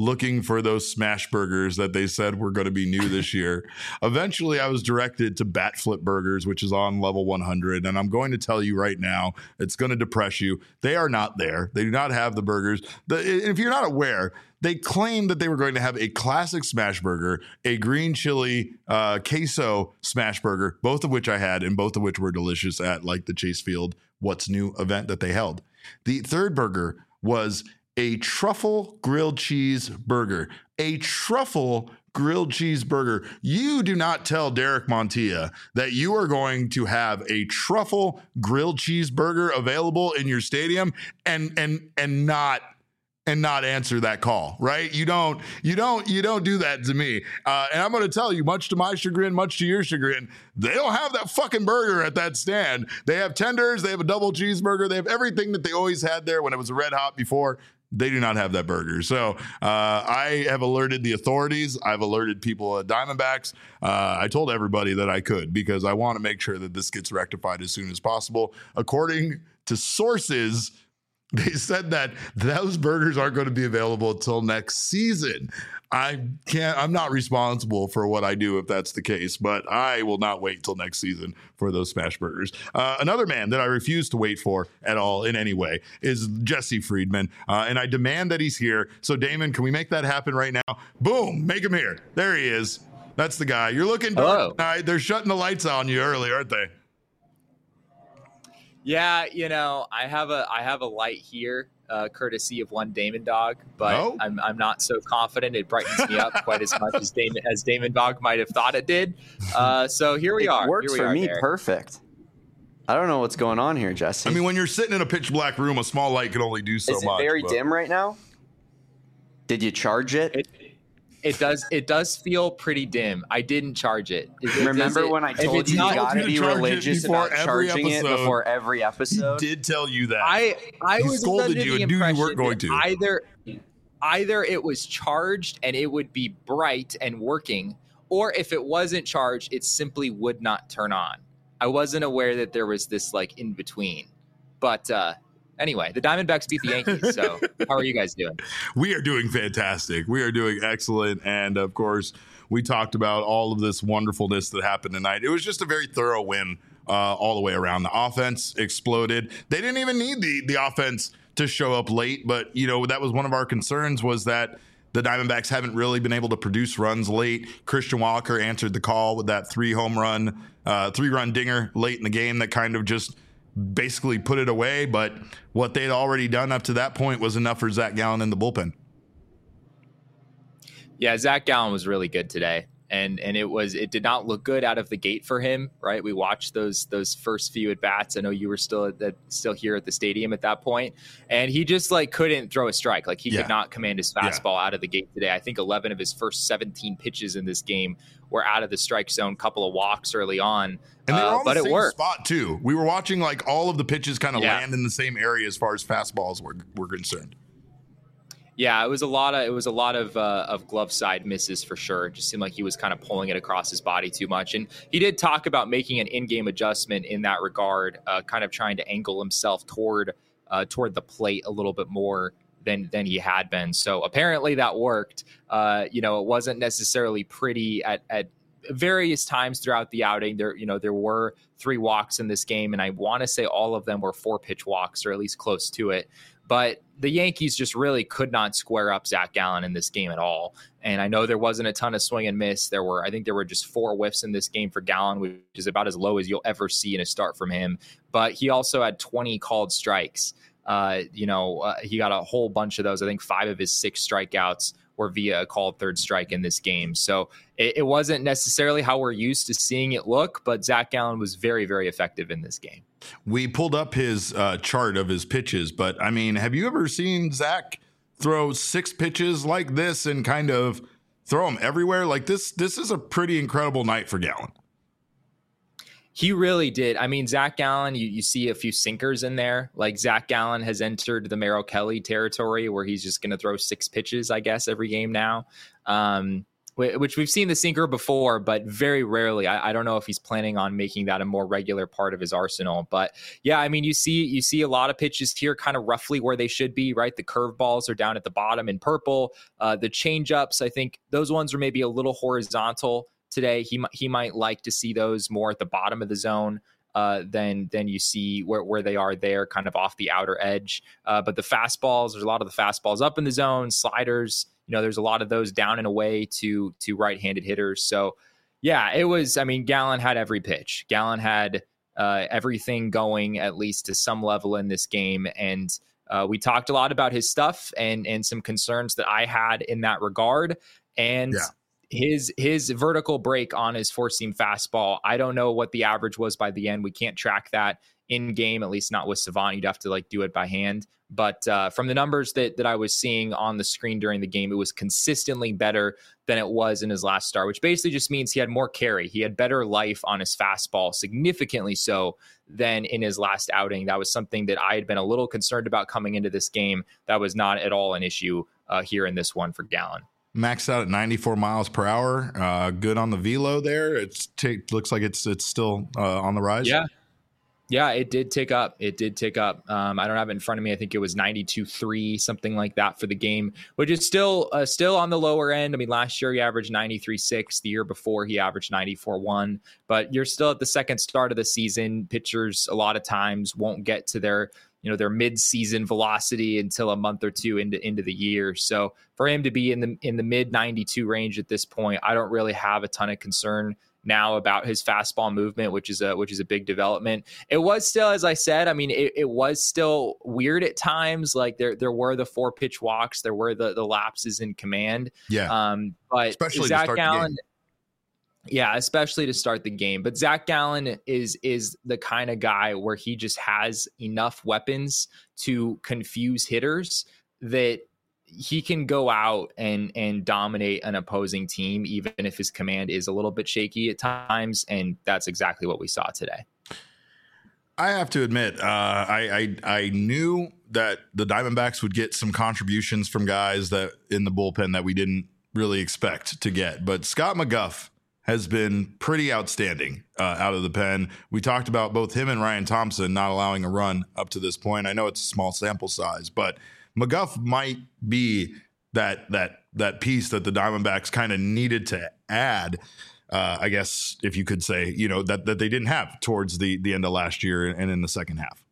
looking for those smash burgers that they said were going to be new this year. Eventually, I was directed to Bat Flip Burgers, which is on level one hundred. And I'm going to tell you right now, it's going to depress you. They are not there. They do not have the burgers. The, if you're not aware, they claimed that they were going to have a classic smash burger, a green chili uh, queso smash burger, both of which I had and both of which were delicious at like the Chase Field What's New event that they held. The third burger was a truffle grilled cheese burger. A truffle grilled cheese burger. You do not tell Derek Montilla that you are going to have a truffle grilled cheese burger available in your stadium and and and not and not answer that call, right? You don't, you don't, you don't do that to me. Uh, and I'm going to tell you, much to my chagrin, much to your chagrin, they don't have that fucking burger at that stand. They have tenders, they have a double cheeseburger, they have everything that they always had there when it was a Red Hot before. They do not have that burger. So uh, I have alerted the authorities. I've alerted people at Diamondbacks. Uh, I told everybody that I could because I want to make sure that this gets rectified as soon as possible. According to sources, they said that those burgers aren't going to be available until next season. I can't, I'm not responsible for what I do if that's the case, but I will not wait till next season for those smash burgers. Uh, another man that I refuse to wait for at all in any way is Jesse Friedman. Uh, and I demand that he's here. So Damon, can we make that happen right now? Boom, make him here. There he is. That's the guy. You're looking dark tonight. They're shutting the lights on you early, aren't they? Yeah, you know, I have a I have a light here, uh, courtesy of one Damon Dog, but oh. I'm I'm not so confident it brightens me up quite as much as Damon as Damon Dog might have thought it did. Uh, so here we it are. It works here we for are me there. perfect. I don't know what's going on here, Jesse. I mean, when you're sitting in a pitch black room, a small light can only do so much. Is it very but... dim right now? Did you charge it? it? It does. It does feel pretty dim. I didn't charge it. it Remember it, when I told you you got to be religious about charging it before every episode? He did tell you that. I I he was scolded under you the and knew you weren't impression going that to. either either it was charged and it would be bright and working, or if it wasn't charged, it simply would not turn on. I wasn't aware that there was this like in between, but. uh Anyway, the Diamondbacks beat the Yankees. So how are you guys doing? We are doing fantastic. We are doing excellent. And of course, we talked about all of this wonderfulness that happened tonight. It was just a very thorough win uh, all the way around. The offense exploded. They didn't even need the, the offense to show up late. But, you know, that was one of our concerns was that the Diamondbacks haven't really been able to produce runs late. Christian Walker answered the call with that three home run, uh, three run dinger late in the game that kind of just basically put it away, but what they'd already done up to that point was enough for Zach Gallen in the bullpen. Yeah, Zach Gallen was really good today. And and it was it did not look good out of the gate for him, right? We watched those those first few at bats. I know you were still at the, still here at the stadium at that point, and he just like couldn't throw a strike. Like he yeah. could not command his fastball yeah. out of the gate today. I think eleven of his first seventeen pitches in this game were out of the strike zone. Couple of walks early on, and they were uh, on but the it same worked. spot too. We were watching like all of the pitches kind of yeah. land in the same area as far as fastballs were were concerned. Yeah, it was a lot of it was a lot of uh, of glove side misses for sure. It just seemed like he was kind of pulling it across his body too much. And he did talk about making an in-game adjustment in that regard, uh, kind of trying to angle himself toward uh, toward the plate a little bit more than than he had been. So apparently that worked. Uh, you know, it wasn't necessarily pretty at at various times throughout the outing. There, you know, there were three walks in this game, and I want to say all of them were four pitch walks or at least close to it. But the Yankees just really could not square up Zach Gallen in this game at all. And I know there wasn't a ton of swing and miss. There were, I think there were just four whiffs in this game for Gallen, which is about as low as you'll ever see in a start from him. But he also had twenty called strikes. Uh, you know, uh, he got a whole bunch of those. I think five of his six strikeouts were via a called third strike in this game. So it, it wasn't necessarily how we're used to seeing it look, but Zach Gallen was very, very effective in this game. We pulled up his uh, chart of his pitches, but I mean, have you ever seen Zach throw six pitches like this and kind of throw them everywhere? Like this, this is a pretty incredible night for Gallen. He really did. I mean, Zach Gallen, you, you see a few sinkers in there. Like Zach Gallen has entered the Merrill Kelly territory where he's just going to throw six pitches, I guess, every game now. Um, which we've seen the sinker before, but very rarely. I, I don't know if he's planning on making that a more regular part of his arsenal. But yeah, I mean, you see, you see a lot of pitches here kind of roughly where they should be, right? The curveballs are down at the bottom in purple. Uh, the changeups, I think those ones are maybe a little horizontal today. He he might like to see those more at the bottom of the zone. Uh, than than you see where, where they are there, kind of off the outer edge. Uh, but the fastballs, there's a lot of the fastballs up in the zone, sliders. You know, there's a lot of those down and away to to right-handed hitters. So, yeah, it was. I mean, Gallen had every pitch. Gallen had uh, everything going at least to some level in this game, and uh, we talked a lot about his stuff and and some concerns that I had in that regard. And yeah. His his vertical break on his four-seam fastball, I don't know what the average was by the end. We can't track that in game, at least not with Savant. You'd have to like do it by hand. But uh, from the numbers that that I was seeing on the screen during the game, it was consistently better than it was in his last start, which basically just means he had more carry. He had better life on his fastball, significantly so than in his last outing. That was something that I had been a little concerned about coming into this game. That was not at all an issue uh, here in this one for Gallen. Maxed out at ninety-four miles per hour. Uh, good on the velo there. It's t- looks like it's it's still uh, on the rise. Yeah, yeah, it did tick up. It did tick up. Um, I don't have it in front of me. I think it was ninety-two point three, something like that for the game, which is still uh, still on the lower end. I mean, last year he averaged ninety-three point six. The year before he averaged ninety-four point one. But you're still at the second start of the season. Pitchers a lot of times won't get to their you know, their mid-season velocity until a month or two into, into the year. So for him to be in the in the mid ninety-two range at this point, I don't really have a ton of concern now about his fastball movement, which is a which is a big development. It was still, as I said, I mean, it, it was still weird at times. Like there there were the four pitch walks, there were the the lapses in command. Yeah. Um, but especially Zach to start Gallen. the game. Yeah, especially to start the game. But Zach Gallen is is the kind of guy where he just has enough weapons to confuse hitters that he can go out and and dominate an opposing team, even if his command is a little bit shaky at times. And that's exactly what we saw today. I have to admit, uh, I, I I knew that the Diamondbacks would get some contributions from guys that in the bullpen that we didn't really expect to get. But Scott McGough has been pretty outstanding uh, out of the pen. We talked about both him and Ryan Thompson not allowing a run up to this point. I know it's a small sample size, but McGough might be that that that piece that the Diamondbacks kind of needed to add. Uh, I guess if you could say, you know, that that they didn't have towards the the end of last year and in the second half.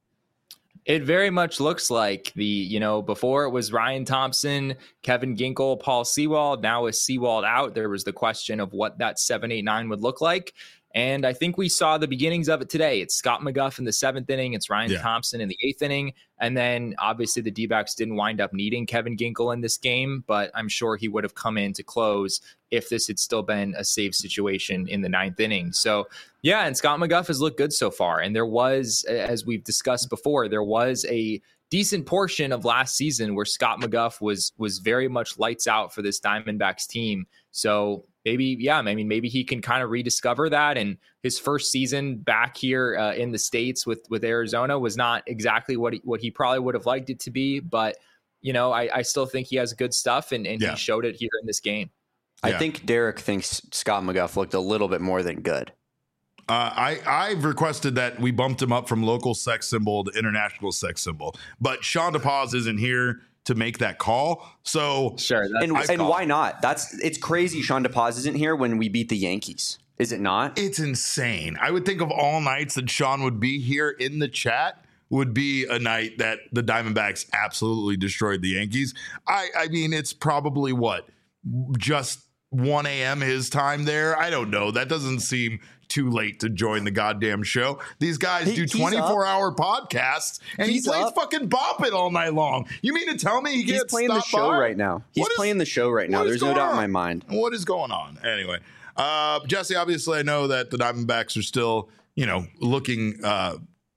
It very much looks like the, you know, before it was Ryan Thompson, Kevin Ginkel, Paul Sewald. Now with Sewald out, there was the question of what that seven eight nine would look like. And I think we saw the beginnings of it today. It's Scott McGough in the seventh inning. It's Ryan yeah. Thompson in the eighth inning. And then obviously the D-backs didn't wind up needing Kevin Ginkel in this game, but I'm sure he would have come in to close if this had still been a save situation in the ninth inning. So yeah, and Scott McGough has looked good so far. And there was, as we've discussed before, there was a decent portion of last season where Scott McGough was was very much lights out for this Diamondbacks team. So maybe, yeah, I mean, maybe he can kind of rediscover that. And his first season back here uh, in the States with with Arizona was not exactly what he, what he probably would have liked it to be. But, you know, I, I still think he has good stuff, and, and yeah. he showed it here in this game. I yeah. think Derek thinks Scott McGough looked a little bit more than good. Uh, I, I've requested that we bumped him up from local sex symbol to international sex symbol, but Sean DePaz isn't here to make that call. So sure. And, and why not? That's it's crazy. Sean DePaz isn't here when we beat the Yankees. Is it not? It's insane. I would think of all nights that Sean would be here in the chat would be a night that the Diamondbacks absolutely destroyed the Yankees. I, I mean, it's probably what, just one a.m. his time there. I don't know. That doesn't seem too late to join the goddamn show. These guys he, do twenty-four hour podcasts, and he's he plays up. fucking Bop It all night long. You mean to tell me he he's can't playing the show by? right now? He's is, playing the show right now. There's no doubt on? in my mind. What is going on? Anyway, uh, Jesse, obviously I know that the Diamondbacks are still, you know, looking uh,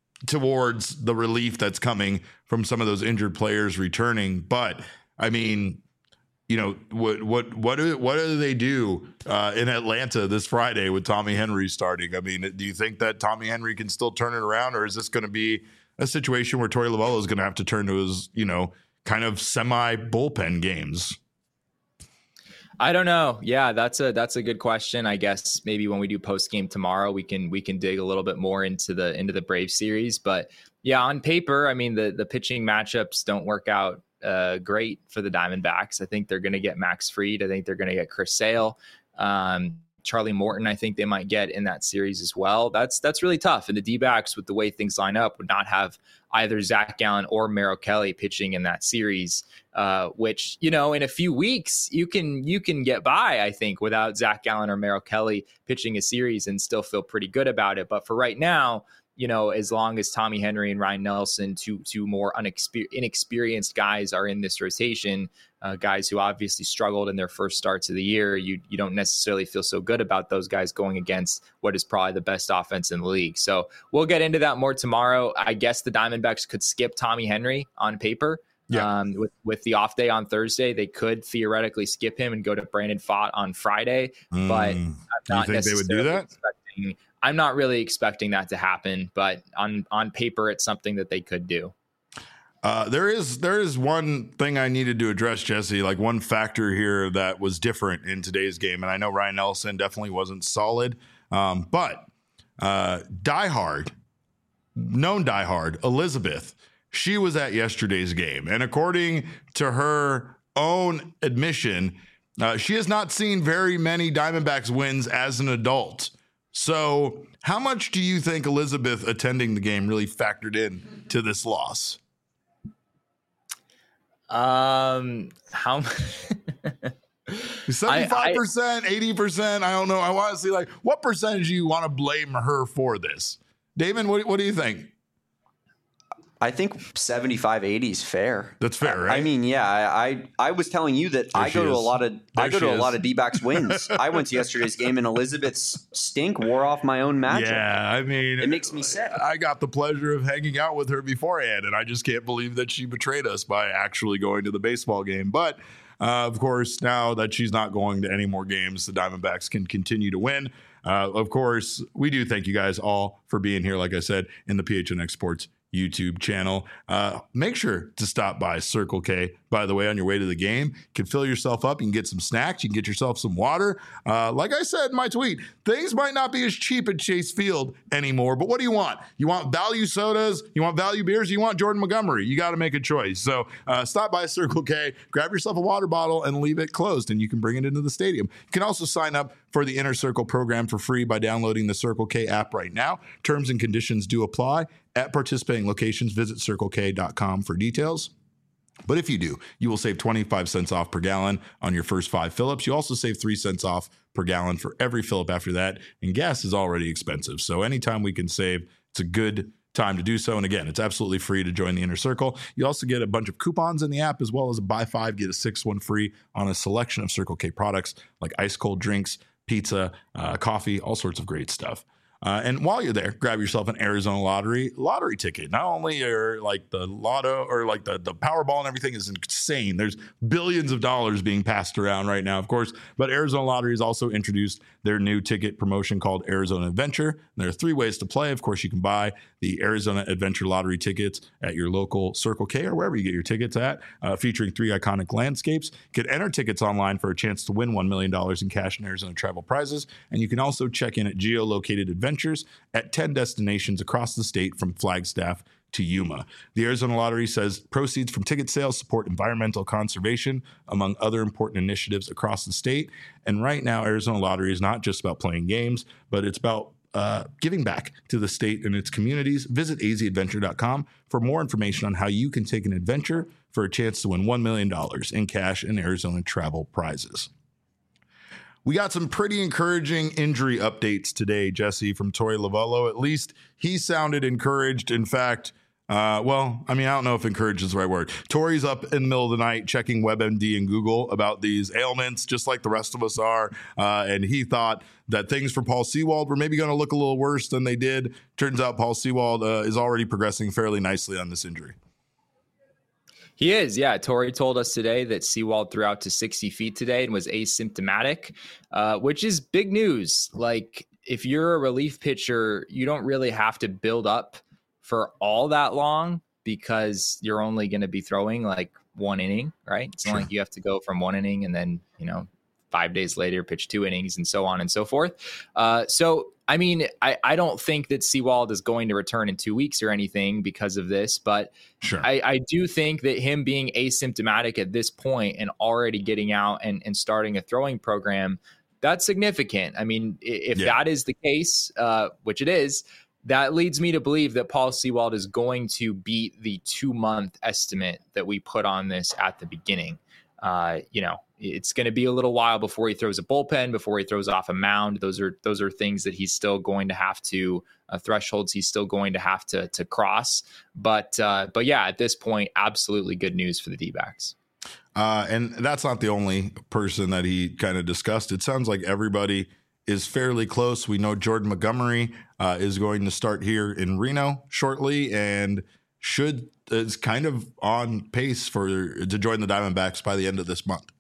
towards the relief that's coming from some of those injured players returning. But I mean, you know, what what what do what do they do uh, in Atlanta this Friday with Tommy Henry starting? I mean, do you think that Tommy Henry can still turn it around, or is this going to be a situation where Torey Lovullo is going to have to turn to his, you know, kind of semi bullpen games? I don't know. Yeah, that's a that's a good question. I guess maybe when we do post game tomorrow, we can we can dig a little bit more into the into the Braves series. But yeah, on paper, I mean the the pitching matchups don't work out uh, great for the Diamondbacks. I think they're going to get Max Fried. I think they're going to get Chris Sale. Um, Charlie Morton, I think they might get in that series as well. That's that's really tough. And the D-backs, with the way things line up, would not have either Zach Gallen or Merrill Kelly pitching in that series, uh, which, you know, in a few weeks, you can you can get by, I think, without Zach Gallen or Merrill Kelly pitching a series and still feel pretty good about it. But for right now, you know, as long as Tommy Henry and Ryan Nelson, two two more unexper- inexperienced guys, are in this rotation, uh, guys who obviously struggled in their first starts of the year, you you don't necessarily feel so good about those guys going against what is probably the best offense in the league. So we'll get into that more tomorrow. I guess the Diamondbacks could skip Tommy Henry on paper. Yeah. Um, with, with the off day on Thursday, they could theoretically skip him and go to Brandon Pfaadt on Friday. Mm, but I'm not you think they would do that? Expecting, I'm not really expecting that to happen, but on, on paper, it's something that they could do. Uh, there is there is one thing I needed to address, Jesse, like one factor here that was different in today's game. And I know Ryan Nelson definitely wasn't solid, um, but uh, diehard, known diehard, Elizabeth, she was at yesterday's game. And according to her own admission, uh, she has not seen very many Diamondbacks wins as an adult. So how much do you think Elizabeth attending the game really factored in to this loss? Um, how seventy-five percent, eighty percent? I don't know. I want to see, like, what percentage do you want to blame her for this? Damon, what, what do you think? I think seventy-five, eighty is fair. That's fair, right? I mean, yeah, I I, I was telling you that there I go to is. a lot of there I go to is. a lot of D-backs wins. I went to yesterday's game and Elizabeth's stink wore off my own magic. Yeah, I mean, it makes me sick. I got the pleasure of hanging out with her beforehand, and I just can't believe that she betrayed us by actually going to the baseball game. But uh, of course, now that she's not going to any more games, the Diamondbacks can continue to win. Uh, of course, we do thank you guys all for being here, like I said, in the P H N X Sports YouTube channel. Uh, make sure to stop by Circle K, by the way, on your way to the game. You can fill yourself up. You can get some snacks. You can get yourself some water. Uh, like I said in my tweet, things might not be as cheap at Chase Field anymore, but what do you want? You want value sodas? You want value beers? You want Jordan Montgomery? You got to make a choice. So uh, stop by Circle K, grab yourself a water bottle, and leave it closed, and you can bring it into the stadium. You can also sign up for the Inner Circle program for free by downloading the Circle K app right now. Terms and conditions do apply. At participating locations, visit circle k dot com for details. But if you do, you will save twenty-five cents off per gallon on your first five fill-ups. You also save three cents off per gallon for every fill-up after that. And gas is already expensive. So anytime we can save, it's a good time to do so. And again, it's absolutely free to join the Inner Circle. You also get a bunch of coupons in the app, as well as a buy five, get a six one free on a selection of Circle K products like ice cold drinks, pizza, uh, coffee, all sorts of great stuff. Uh, and while you're there, grab yourself an Arizona Lottery lottery ticket. Not only are like the lotto or like the, the Powerball and everything is insane. There's billions of dollars being passed around right now, of course. But Arizona Lottery has also introduced their new ticket promotion called Arizona Adventure. There are three ways to play. Of course, you can buy the Arizona Adventure Lottery tickets at your local Circle K or wherever you get your tickets at, uh, featuring three iconic landscapes. You can enter tickets online for a chance to win one million dollars in cash and Arizona travel prizes. And you can also check in at geolocated adventures at ten destinations across the state from Flagstaff to Yuma. The Arizona Lottery says proceeds from ticket sales support environmental conservation, among other important initiatives across the state. And right now, Arizona Lottery is not just about playing games, but it's about uh, giving back to the state and its communities. Visit a z adventure dot com for more information on how you can take an adventure for a chance to win one million dollars in cash and Arizona travel prizes. We got some pretty encouraging injury updates today, Jesse, from Torey Lovullo. At least he sounded encouraged. In fact, uh, well, I mean, I don't know if encouraged is the right word. Torey's up in the middle of the night checking WebMD and Google about these ailments, just like the rest of us are. Uh, and he thought that things for Paul Sewald were maybe going to look a little worse than they did. Turns out Paul Sewald uh, is already progressing fairly nicely on this injury. He is, yeah. Torey told us today that Sewald threw out to sixty feet today and was asymptomatic, uh, which is big news. Like, if you're a relief pitcher, you don't really have to build up for all that long because you're only going to be throwing like one inning, right? It's not sure. like you have to go from one inning and then, you know, five days later, pitched two innings, and so on and so forth. Uh, so, I mean, I, I don't think that Sewald is going to return in two weeks or anything because of this, but sure. I, I do think that him being asymptomatic at this point and already getting out and, and starting a throwing program, that's significant. I mean, if yeah. that is the case, uh, which it is, that leads me to believe that Paul Sewald is going to beat the two-month estimate that we put on this at the beginning. Uh, you know, it's going to be a little while before he throws a bullpen, before he throws off a mound. Those are those are things that he's still going to have to uh, thresholds he's still going to have to to cross. But uh, but yeah, at this point, absolutely good news for the D-backs. Uh, and that's not the only person that he kind of discussed. It sounds like everybody is fairly close. We know Jordan Montgomery uh, is going to start here in Reno shortly and should is kind of on pace for to join the Diamondbacks by the end of this month.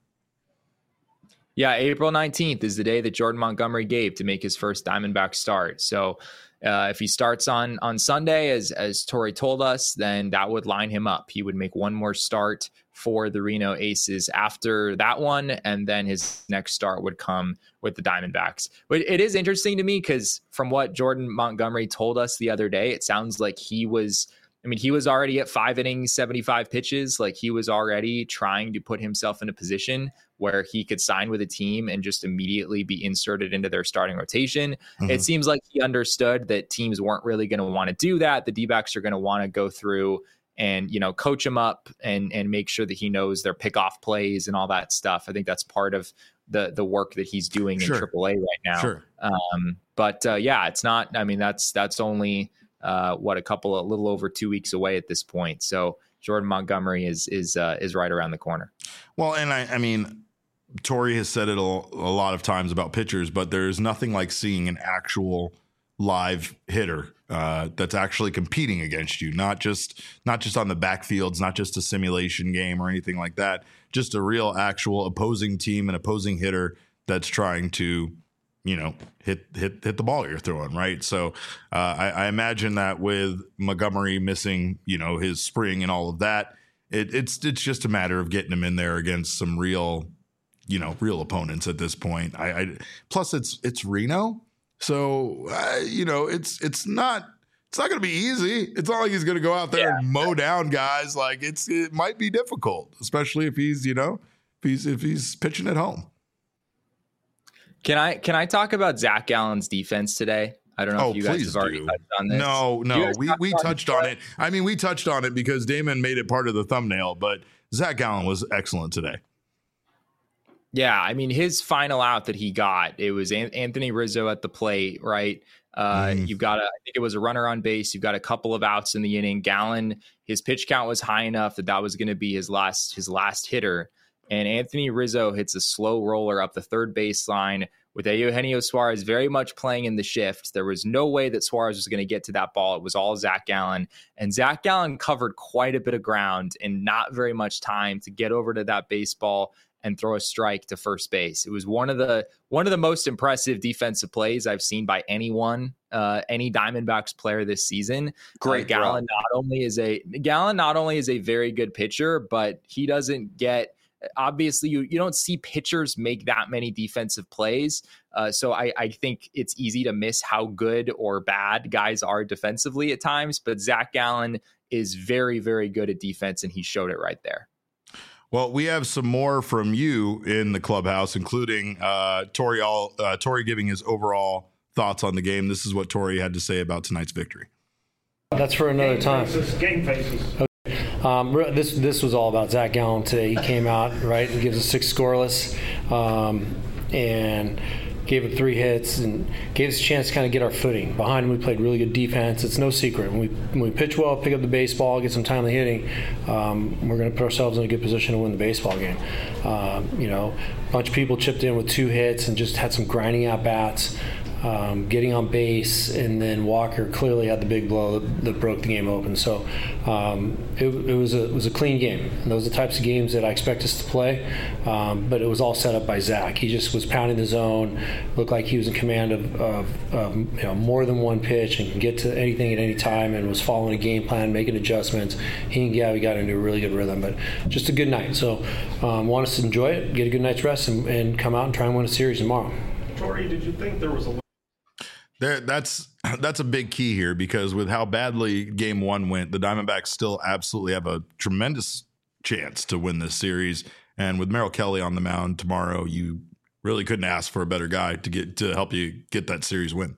Yeah, April nineteenth is the day that Jordan Montgomery gave to make his first Diamondback start. So uh, if he starts on on Sunday, as as Torey told us, then that would line him up. He would make one more start for the Reno Aces after that one, and then his next start would come with the Diamondbacks. But it is interesting to me because from what Jordan Montgomery told us the other day, it sounds like he was, I mean, he was already at five innings, seventy-five pitches. Like he was already trying to put himself in a position where he could sign with a team and just immediately be inserted into their starting rotation. Mm-hmm. It seems like he understood that teams weren't really going to want to do that. The D-backs are going to want to go through and, you know, coach him up and and make sure that he knows their pickoff plays and all that stuff. I think that's part of the the work that he's doing sure. in triple A right now. Sure. Um, but uh, yeah, it's not, I mean, that's, that's only uh, what, a couple, a little over two weeks away at this point. So Jordan Montgomery is, is, uh, is right around the corner. Well, and I, I mean, Torey has said it a, a lot of times about pitchers, but there's nothing like seeing an actual live hitter uh, that's actually competing against you, not just not just on the backfields, not just a simulation game or anything like that, just a real actual opposing team and opposing hitter that's trying to, you know, hit hit hit the ball you're throwing, right? So uh, I, I imagine that with Montgomery missing, you know, his spring and all of that, it, it's it's just a matter of getting him in there against some real, you know, real opponents at this point. I, I plus it's it's Reno. So, uh, you know, it's it's not it's not going to be easy. It's not like he's going to go out there yeah. and mow down guys. Like it's it might be difficult, especially if he's, you know, if he's if he's pitching at home. Can I can I talk about Zach Gallen's defense today? I don't know oh, if you guys have already do. touched on this. No, no, we we touched on it? it. I mean, we touched on it because Damon made it part of the thumbnail, but Zach Gallen was excellent today. Yeah, I mean, his final out that he got, it was Anthony Rizzo at the plate, right? Uh, mm. You've got, a, I think it was a runner on base. You've got a couple of outs in the inning. Gallen, his pitch count was high enough that that was going to be his last his last hitter. And Anthony Rizzo hits a slow roller up the third baseline with Eugenio Suarez very much playing in the shift. There was no way that Suarez was going to get to that ball. It was all Zach Gallen. And Zach Gallen covered quite a bit of ground in not very much time to get over to that baseball and throw a strike to first base. It was one of the one of the most impressive defensive plays I've seen by anyone, uh, any Diamondbacks player this season. Great. Uh, Gallen not only is a Gallen not only is a very good pitcher, but he doesn't get. Obviously, you, you don't see pitchers make that many defensive plays. Uh, so I, I think it's easy to miss how good or bad guys are defensively at times. But Zach Gallen is very, very good at defense, and he showed it right there. Well, we have some more from you in the clubhouse, including uh, Torey, all, uh, Torey giving his overall thoughts on the game. This is what Torey had to say about tonight's victory. That's for another game time. Faces, game faces. Okay. Um, this this was all about Zach Gallen today. He came out, right, and gives us six scoreless, um, and gave up three hits and gave us a chance to kind of get our footing. Behind him, we played really good defense. It's no secret. When we, when we pitch well, pick up the baseball, get some timely hitting, um, we're going to put ourselves in a good position to win the baseball game. Um, you know, a bunch of people chipped in with two hits and just had some grinding at bats. um, getting on base, and then Walker clearly had the big blow that, that broke the game open. So um, it, it was a it was a clean game. And those are the types of games that I expect us to play. Um, but it was all set up by Zach. He just was pounding the zone, looked like he was in command of, of, of you know, more than one pitch and can get to anything at any time, and was following a game plan, making adjustments. He and Gabby got into a really good rhythm, but just a good night. So um, want us to enjoy it, get a good night's rest, and, and come out and try and win a series tomorrow. Tori, did you think there was a There, that's that's a big key here, because with how badly game one went, the Diamondbacks still absolutely have a tremendous chance to win this series. And with Merrill Kelly on the mound tomorrow, you really couldn't ask for a better guy to get to help you get that series win.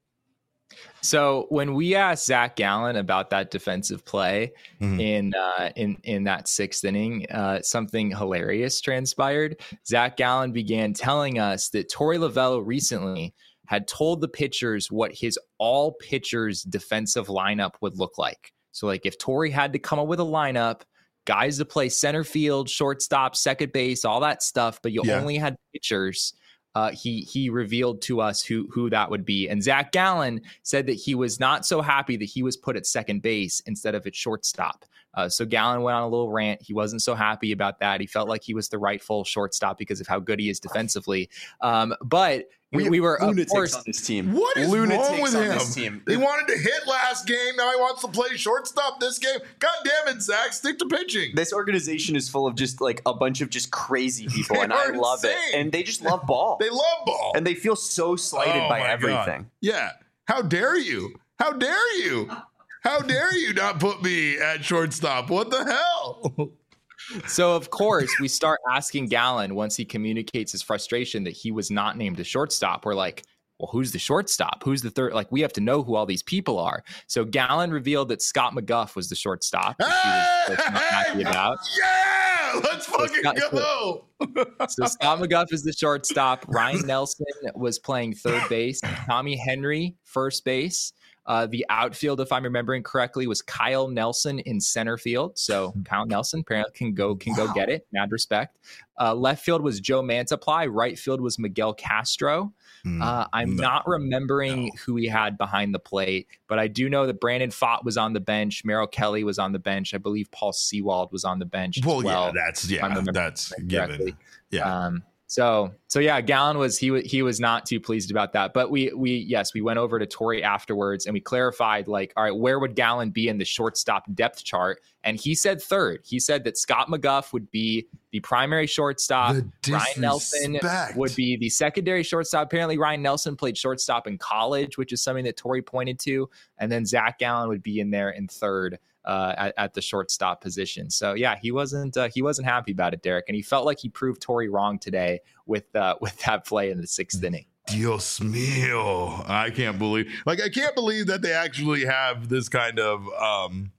So when we asked Zach Gallen about that defensive play Mm-hmm. in uh, in in that sixth inning, uh, something hilarious transpired. Zach Gallen began telling us that Torey Lovullo recently had told the pitchers what his all pitchers defensive lineup would look like. So like if Torey had to come up with a lineup, guys to play center field, shortstop, second base, all that stuff, but you Yeah. only had pitchers. Uh, he he revealed to us who who that would be. And Zach Gallen said that he was not so happy that he was put at second base instead of at shortstop. Uh, so Gallen went on a little rant. He wasn't so happy about that. He felt like he was the rightful shortstop because of how good he is defensively. Um, but we, we were, of lunatics course, on this team. What is lunatics wrong with on him? this team. He wanted to hit last game. Now he wants to play shortstop this game. God damn it, Zach. Stick to pitching. This organization is full of just like a bunch of just crazy people, They and I are love insane. it. And they just love ball. They love ball. and they feel so slighted Oh by my everything. God. Yeah. How dare you? How dare you? How dare you not put me at shortstop? What the hell? So, of course, we start asking Gallen once he communicates his frustration that he was not named a shortstop. We're like, well, who's the shortstop? Who's the third? Like, we have to know who all these people are. So Gallen revealed that Scott McGuff was the shortstop, which he was, was not happy about. Yeah, let's fucking Scott- go. So Scott McGuff is the shortstop. Ryan Nelson was playing third base. Tommy Henry, first base. Uh, the outfield, if I'm remembering correctly, was Kyle Nelson in center field. So Kyle Nelson apparently can go can go get it. Mad respect. Uh, left field was Joe Mantiply. Right field was Miguel Castro. Uh, I'm no, not remembering no. who he had behind the plate, but I do know that Brandon Pfaadt was on the bench. Merrill Kelly was on the bench. I believe Paul Sewald was on the bench. Well, as well, yeah, that's if I'm yeah, remembering that's correctly. given. Yeah. Um, so, so yeah, Gallen was, he was, he was not too pleased about that, but we, we, yes, we went over to Torey afterwards and we clarified like, all right, where would Gallen be in the shortstop depth chart? And he said third. He said that Scott McGuff would be the primary shortstop. The Ryan Nelson disrespect. would be the secondary shortstop. Apparently Ryan Nelson played shortstop in college, which is something that Torey pointed to. And then Zach Gallen would be in there in third. Uh, at, at the shortstop position. So yeah, he wasn't uh, he wasn't happy about it, Derek, and he felt like he proved Torey wrong today with uh, with that play in the sixth inning. Dios mío. I can't believe like I can't believe that they actually have this kind of um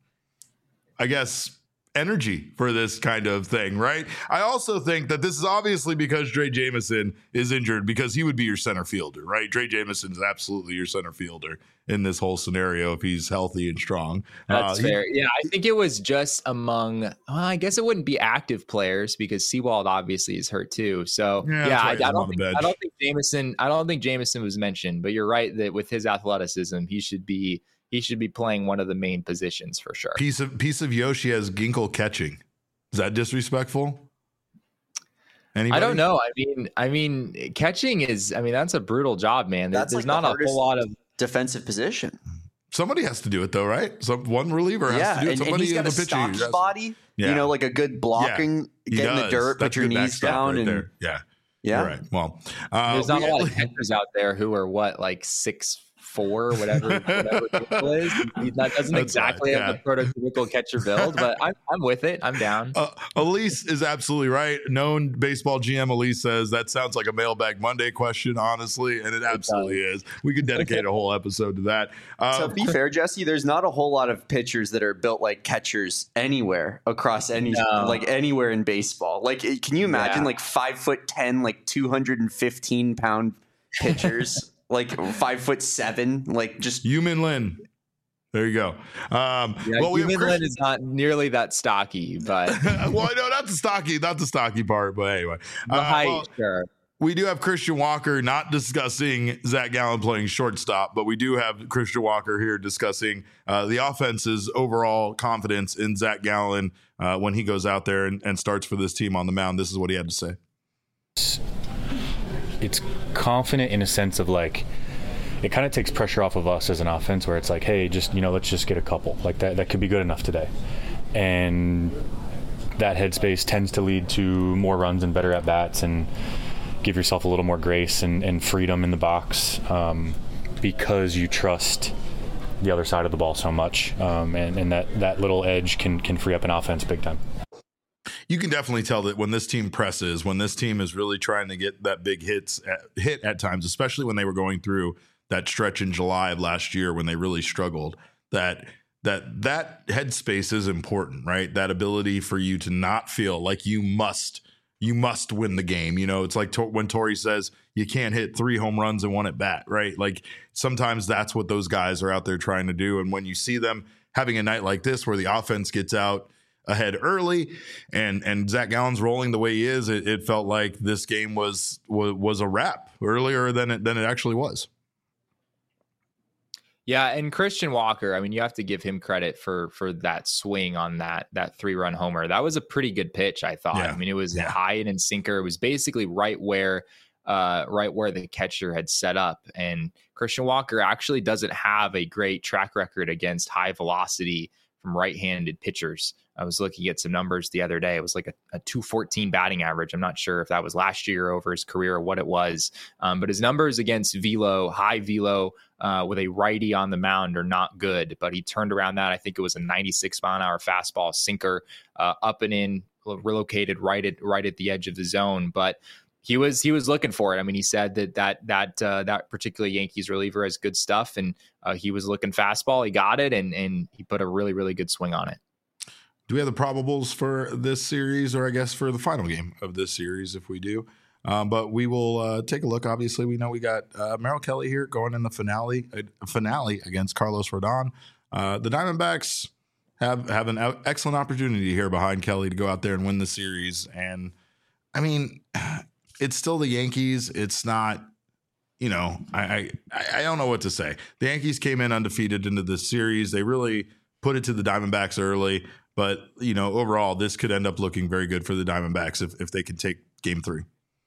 I guess energy for this kind of thing, right? I also think that this is obviously because Dre Jameson is injured, because he would be your center fielder, right? Dre Jameson is absolutely your center fielder in this whole scenario if he's healthy and strong. That's Uh, fair. Yeah, I think it was just among, well, I guess it wouldn't be active players because Sewald obviously is hurt too. So Yeah, yeah, that's I, right, he's I on don't the think, bench. I don't think Jameson, I don't think Jameson was mentioned, but you're right that with his athleticism, he should be, he should be playing one of the main positions for sure. Piece of piece of Yoshi has Ginkle catching. Is that disrespectful? Anybody? I don't know. I mean, I mean, catching is, I mean, that's a brutal job, man. There- That's There's like the not a hardest whole lot of, defensive position. Somebody has to do it though, right? Some one reliever has Yeah, to do it. and, and Somebody he's got in a the pitching. stocked has- body. Yeah. You know, like a good blocking, He get in the does. dirt, That's put your good knees backstop down, right and there. Yeah. yeah. You're right. Well, uh, there's not we- a lot of catchers out there who are what, like six four, whatever, whatever Ginkle is. He that doesn't That's exactly fine, have the prototypical catcher build, but I'm, I'm with it. I'm down. Uh, Elise is absolutely right. Known baseball G M Elise says that sounds like a Mailbag Monday question, honestly, and it absolutely is. We could dedicate a whole episode to that. To Um, be fair, Jesse, there's not a whole lot of pitchers that are built like catchers anywhere across any No. like anywhere in baseball. Like, can you imagine Yeah. like five foot ten, like two hundred and fifteen pound pitchers, like five foot seven, like just Yumin Lin. There you go. Um, Yeah, well, we have Human Chris- Lin is not nearly that stocky, but well, no, not the stocky, not the stocky part, but anyway. the Uh, height, well, sure. we do have Christian Walker not discussing Zach Gallen playing shortstop, but we do have Christian Walker here discussing uh, the offense's overall confidence in Zach Gallen uh, when he goes out there and, and starts for this team on the mound. This is what he had to say. It's confident in a sense of like, it kind of takes pressure off of us as an offense where it's like, hey, just, you know, let's just get a couple. Like that, that could be good enough today. And that headspace tends to lead to more runs and better at-bats and give yourself a little more grace and, and freedom in the box um, because you trust the other side of the ball so much. Um, and, and that, that little edge can, can free up an offense big time. You can definitely tell that when this team presses, when this team is really trying to get that big hits at, hit at times, especially when they were going through that stretch in July of last year when they really struggled, that that that headspace is important, right? That ability for you to not feel like you must you must win the game. You know, it's like to, when Torey says you can't hit three home runs in one at bat, right? Like sometimes that's what those guys are out there trying to do. And when you see them having a night like this where the offense gets out ahead early and and Zach Gallen's rolling the way he is, it, it felt like this game was was, was a wrap earlier than it than it actually was. Yeah, and Christian Walker, I mean, you have to give him credit for for that swing on that that three-run homer. That was a pretty good pitch, I thought. Yeah. I mean, it was Yeah. high and in sinker. It was basically right where uh, right where the catcher had set up. And Christian Walker actually doesn't have a great track record against high velocity from right-handed pitchers. I was looking at some numbers the other day. It was like a, a two fourteen batting average. I'm not sure if that was last year over his career or what it was. Um, but his numbers against velo, high velo uh, with a righty on the mound are not good. But he turned around that. I think it was a ninety-six mile an hour fastball sinker uh, up and in, relocated right at right at the edge of the zone. But he was he was looking for it. I mean, he said that that that uh, that particular Yankees reliever has good stuff, and uh, he was looking fastball. He got it, and and he put a really really good swing on it. Do we have the probables for this series, or I guess for the final game of this series if we do? Um, but we will uh, take a look. Obviously, we know we got uh, Merrill Kelly here going in the finale uh, finale against Carlos Rodon. Uh, the Diamondbacks have have an out- excellent opportunity here behind Kelly to go out there and win the series. And I mean, it's still the Yankees. It's not, you know, I, I I don't know what to say. The Yankees came in undefeated into this series. They really put it to the Diamondbacks early. But, you know, overall, this could end up looking very good for the Diamondbacks if, if they can take game three.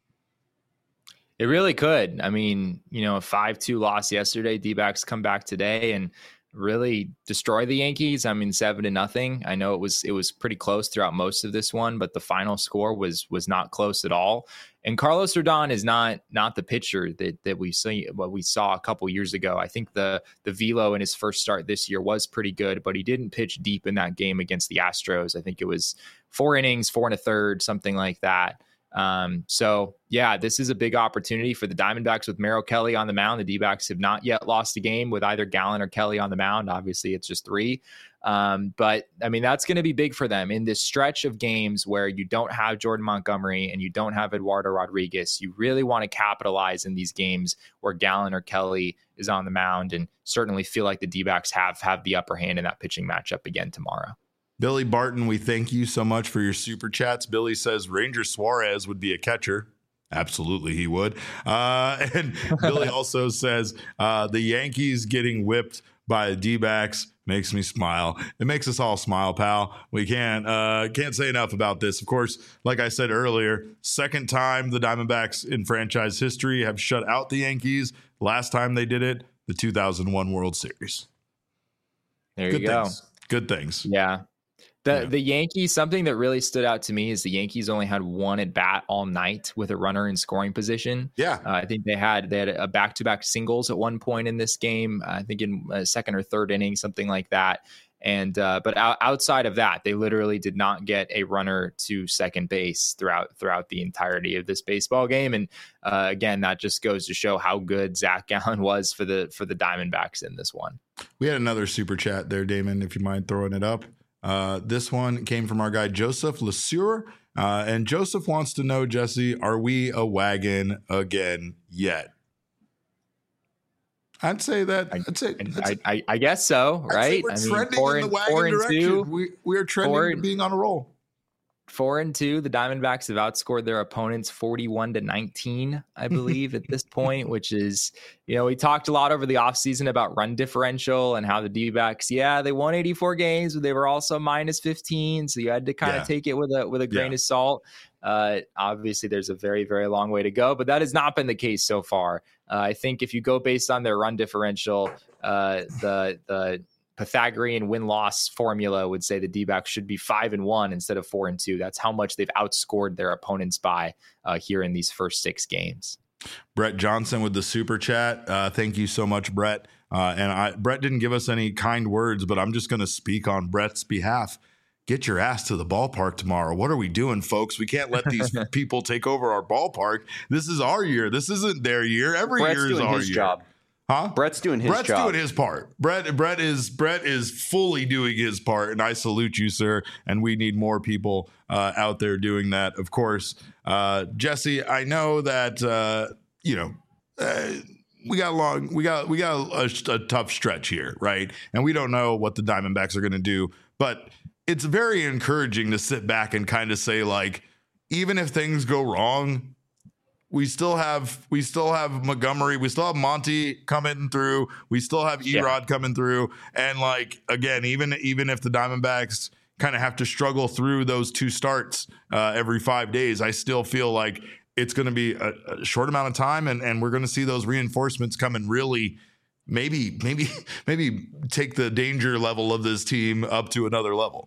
It really could. I mean, you know, a five two loss yesterday, D-backs come back today and really destroy the Yankees. I mean, seven to nothing. I know it was it was pretty close throughout most of this one, but the final score was was not close at all. And Carlos Rodon is not not the pitcher that that we see what we saw a couple years ago. I think the the velo in his first start this year was pretty good, but he didn't pitch deep in that game against the Astros. I think it was four innings, four and a third, something like that. Um, so yeah, this is a big opportunity for the Diamondbacks with Merrill Kelly on the mound. The D-backs have not yet lost a game with either Gallen or Kelly on the mound. Obviously it's just three. Um, but I mean, that's going to be big for them in this stretch of games where you don't have Jordan Montgomery and you don't have Eduardo Rodriguez. You really want to capitalize in these games where Gallen or Kelly is on the mound, and certainly feel like the D-backs have, have the upper hand in that pitching matchup again tomorrow. Billy Barton, we thank you so much for your super chats. Billy says Ranger Suarez would be a catcher. Absolutely, he would. Uh, and Billy also says uh, the Yankees getting whipped by the D-backs makes me smile. It makes us all smile, pal. We can't uh, can't say enough about this. Of course, like I said earlier, second time the Diamondbacks in franchise history have shut out the Yankees. Last time they did it, the two thousand one World Series. There Good you go. things. Good things. Yeah. The Yeah. the Yankees, something that really stood out to me is the Yankees only had one at bat all night with a runner in scoring position. Yeah. Uh, I think they had they had a back to back singles at one point in this game. I think in a second or third inning, something like that. And uh, but out, outside of that, they literally did not get a runner to second base throughout throughout the entirety of this baseball game. And uh, again, that just goes to show how good Zach Gallen was for the for the Diamondbacks in this one. We had another super chat there, Damon, if you mind throwing it up. Uh, this one came from our guy, Joseph LeSueur. Uh, and Joseph wants to know, Jesse, are we a wagon again yet? I'd say that. I'd say, I, I, I guess so, right? I'd say we're I mean, trending four in the and, wagon four and direction. two, we, we are trending four, to being on a roll. four and two. The Diamondbacks have outscored their opponents forty-one to nineteen, I believe, at this point, which is, you know, we talked a lot over the offseason about run differential and how the D-backs, yeah, they won eighty-four games, but they were also minus fifteen. So you had to kind of yeah. take it with a with a grain yeah. of salt. Uh, obviously, there's a very, very long way to go, but that has not been the case so far. Uh, I think if you go based on their run differential, uh, the the Pythagorean win-loss formula would say the D-backs should be five and one instead of four and two. That's how much they've outscored their opponents by uh, here in these first six games. Brett Johnson with the super chat. Uh, thank you so much, Brett. Uh, and I, Brett didn't give us any kind words, but I'm just going to speak on Brett's behalf. Get your ass to the ballpark tomorrow. What are we doing, folks? We can't let these people take over our ballpark. This is our year. This isn't their year. Every Brett's year is doing our his year. Job. Huh? Brett's doing his Brett's job. doing his part. Brett Brett is Brett is fully doing his part, and I salute you, sir. And we need more people uh, out there doing that. Of course, uh, Jesse, I know that uh, you know uh, we got long, we got we got a, a tough stretch here, right? And we don't know what the Diamondbacks are going to do, but it's very encouraging to sit back and kind of say, like, even if things go wrong, we still have we still have Montgomery, we still have Monty coming through, we still have Erod yeah. coming through, and like again, even even if the Diamondbacks kind of have to struggle through those two starts uh, every five days, I still feel like it's going to be a, a short amount of time, and and we're going to see those reinforcements come and really maybe maybe maybe take the danger level of this team up to another level.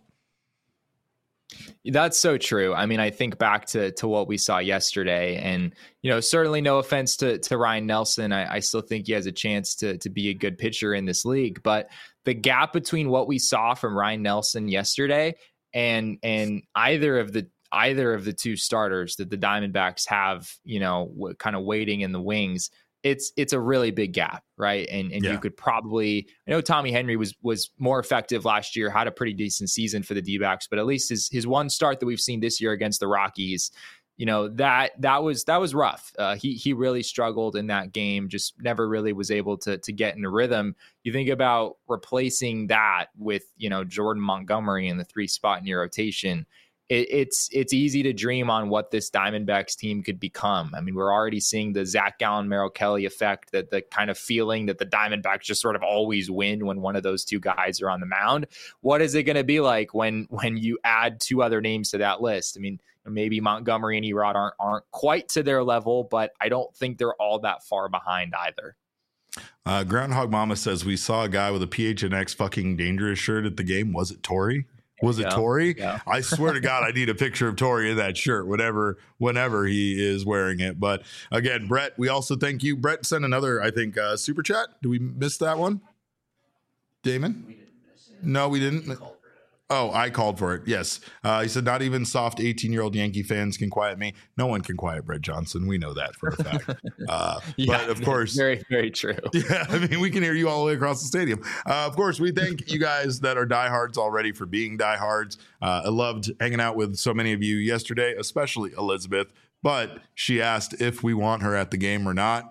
That's so true. I mean, I think back to to what we saw yesterday, and you know, certainly no offense to to Ryan Nelson, I, I still think he has a chance to to be a good pitcher in this league. But the gap between what we saw from Ryan Nelson yesterday and and either of the either of the two starters that the Diamondbacks have, you know, w- kind of waiting in the wings, it's it's a really big gap, right? And and yeah. you could probably, I know Tommy Henry was was more effective last year, had a pretty decent season for the D-backs, but at least his his one start that we've seen this year against the Rockies, you know, that that was that was rough. Uh, he he really struggled in that game, just never really was able to to get in a rhythm. You think about replacing that with, you know, Jordan Montgomery in the three spot in your rotation. It, it's it's easy to dream on what this Diamondbacks team could become. I mean, we're already seeing the Zach Gallen, Merrill Kelly effect, that the kind of feeling that the Diamondbacks just sort of always win when one of those two guys are on the mound. What is it going to be like when when you add two other names to that list? I mean, maybe Montgomery and Erod aren't aren't quite to their level, but I don't think they're all that far behind either. Uh, Groundhog Mama says we saw a guy with a P H N X fucking dangerous shirt at the game. Was it Torrey? Was it yeah, Torrey? Yeah. I swear to God, I need a picture of Torrey in that shirt, whenever, whenever he is wearing it. But again, Brett, we also thank you. Brett sent another, I think, uh, super chat. Did we miss that one? Damon? We didn't miss it. No, we didn't. Oh, I called for it. Yes. Uh, he said, not even soft eighteen-year-old Yankee fans can quiet me. No one can quiet Brett Johnson. We know that for a fact. Uh, yeah, but of course. Very, very true. Yeah. I mean, we can hear you all the way across the stadium. Uh, of course, we thank you guys that are diehards already for being diehards. Uh, I loved hanging out with so many of you yesterday, especially Elizabeth. But she asked if we want her at the game or not.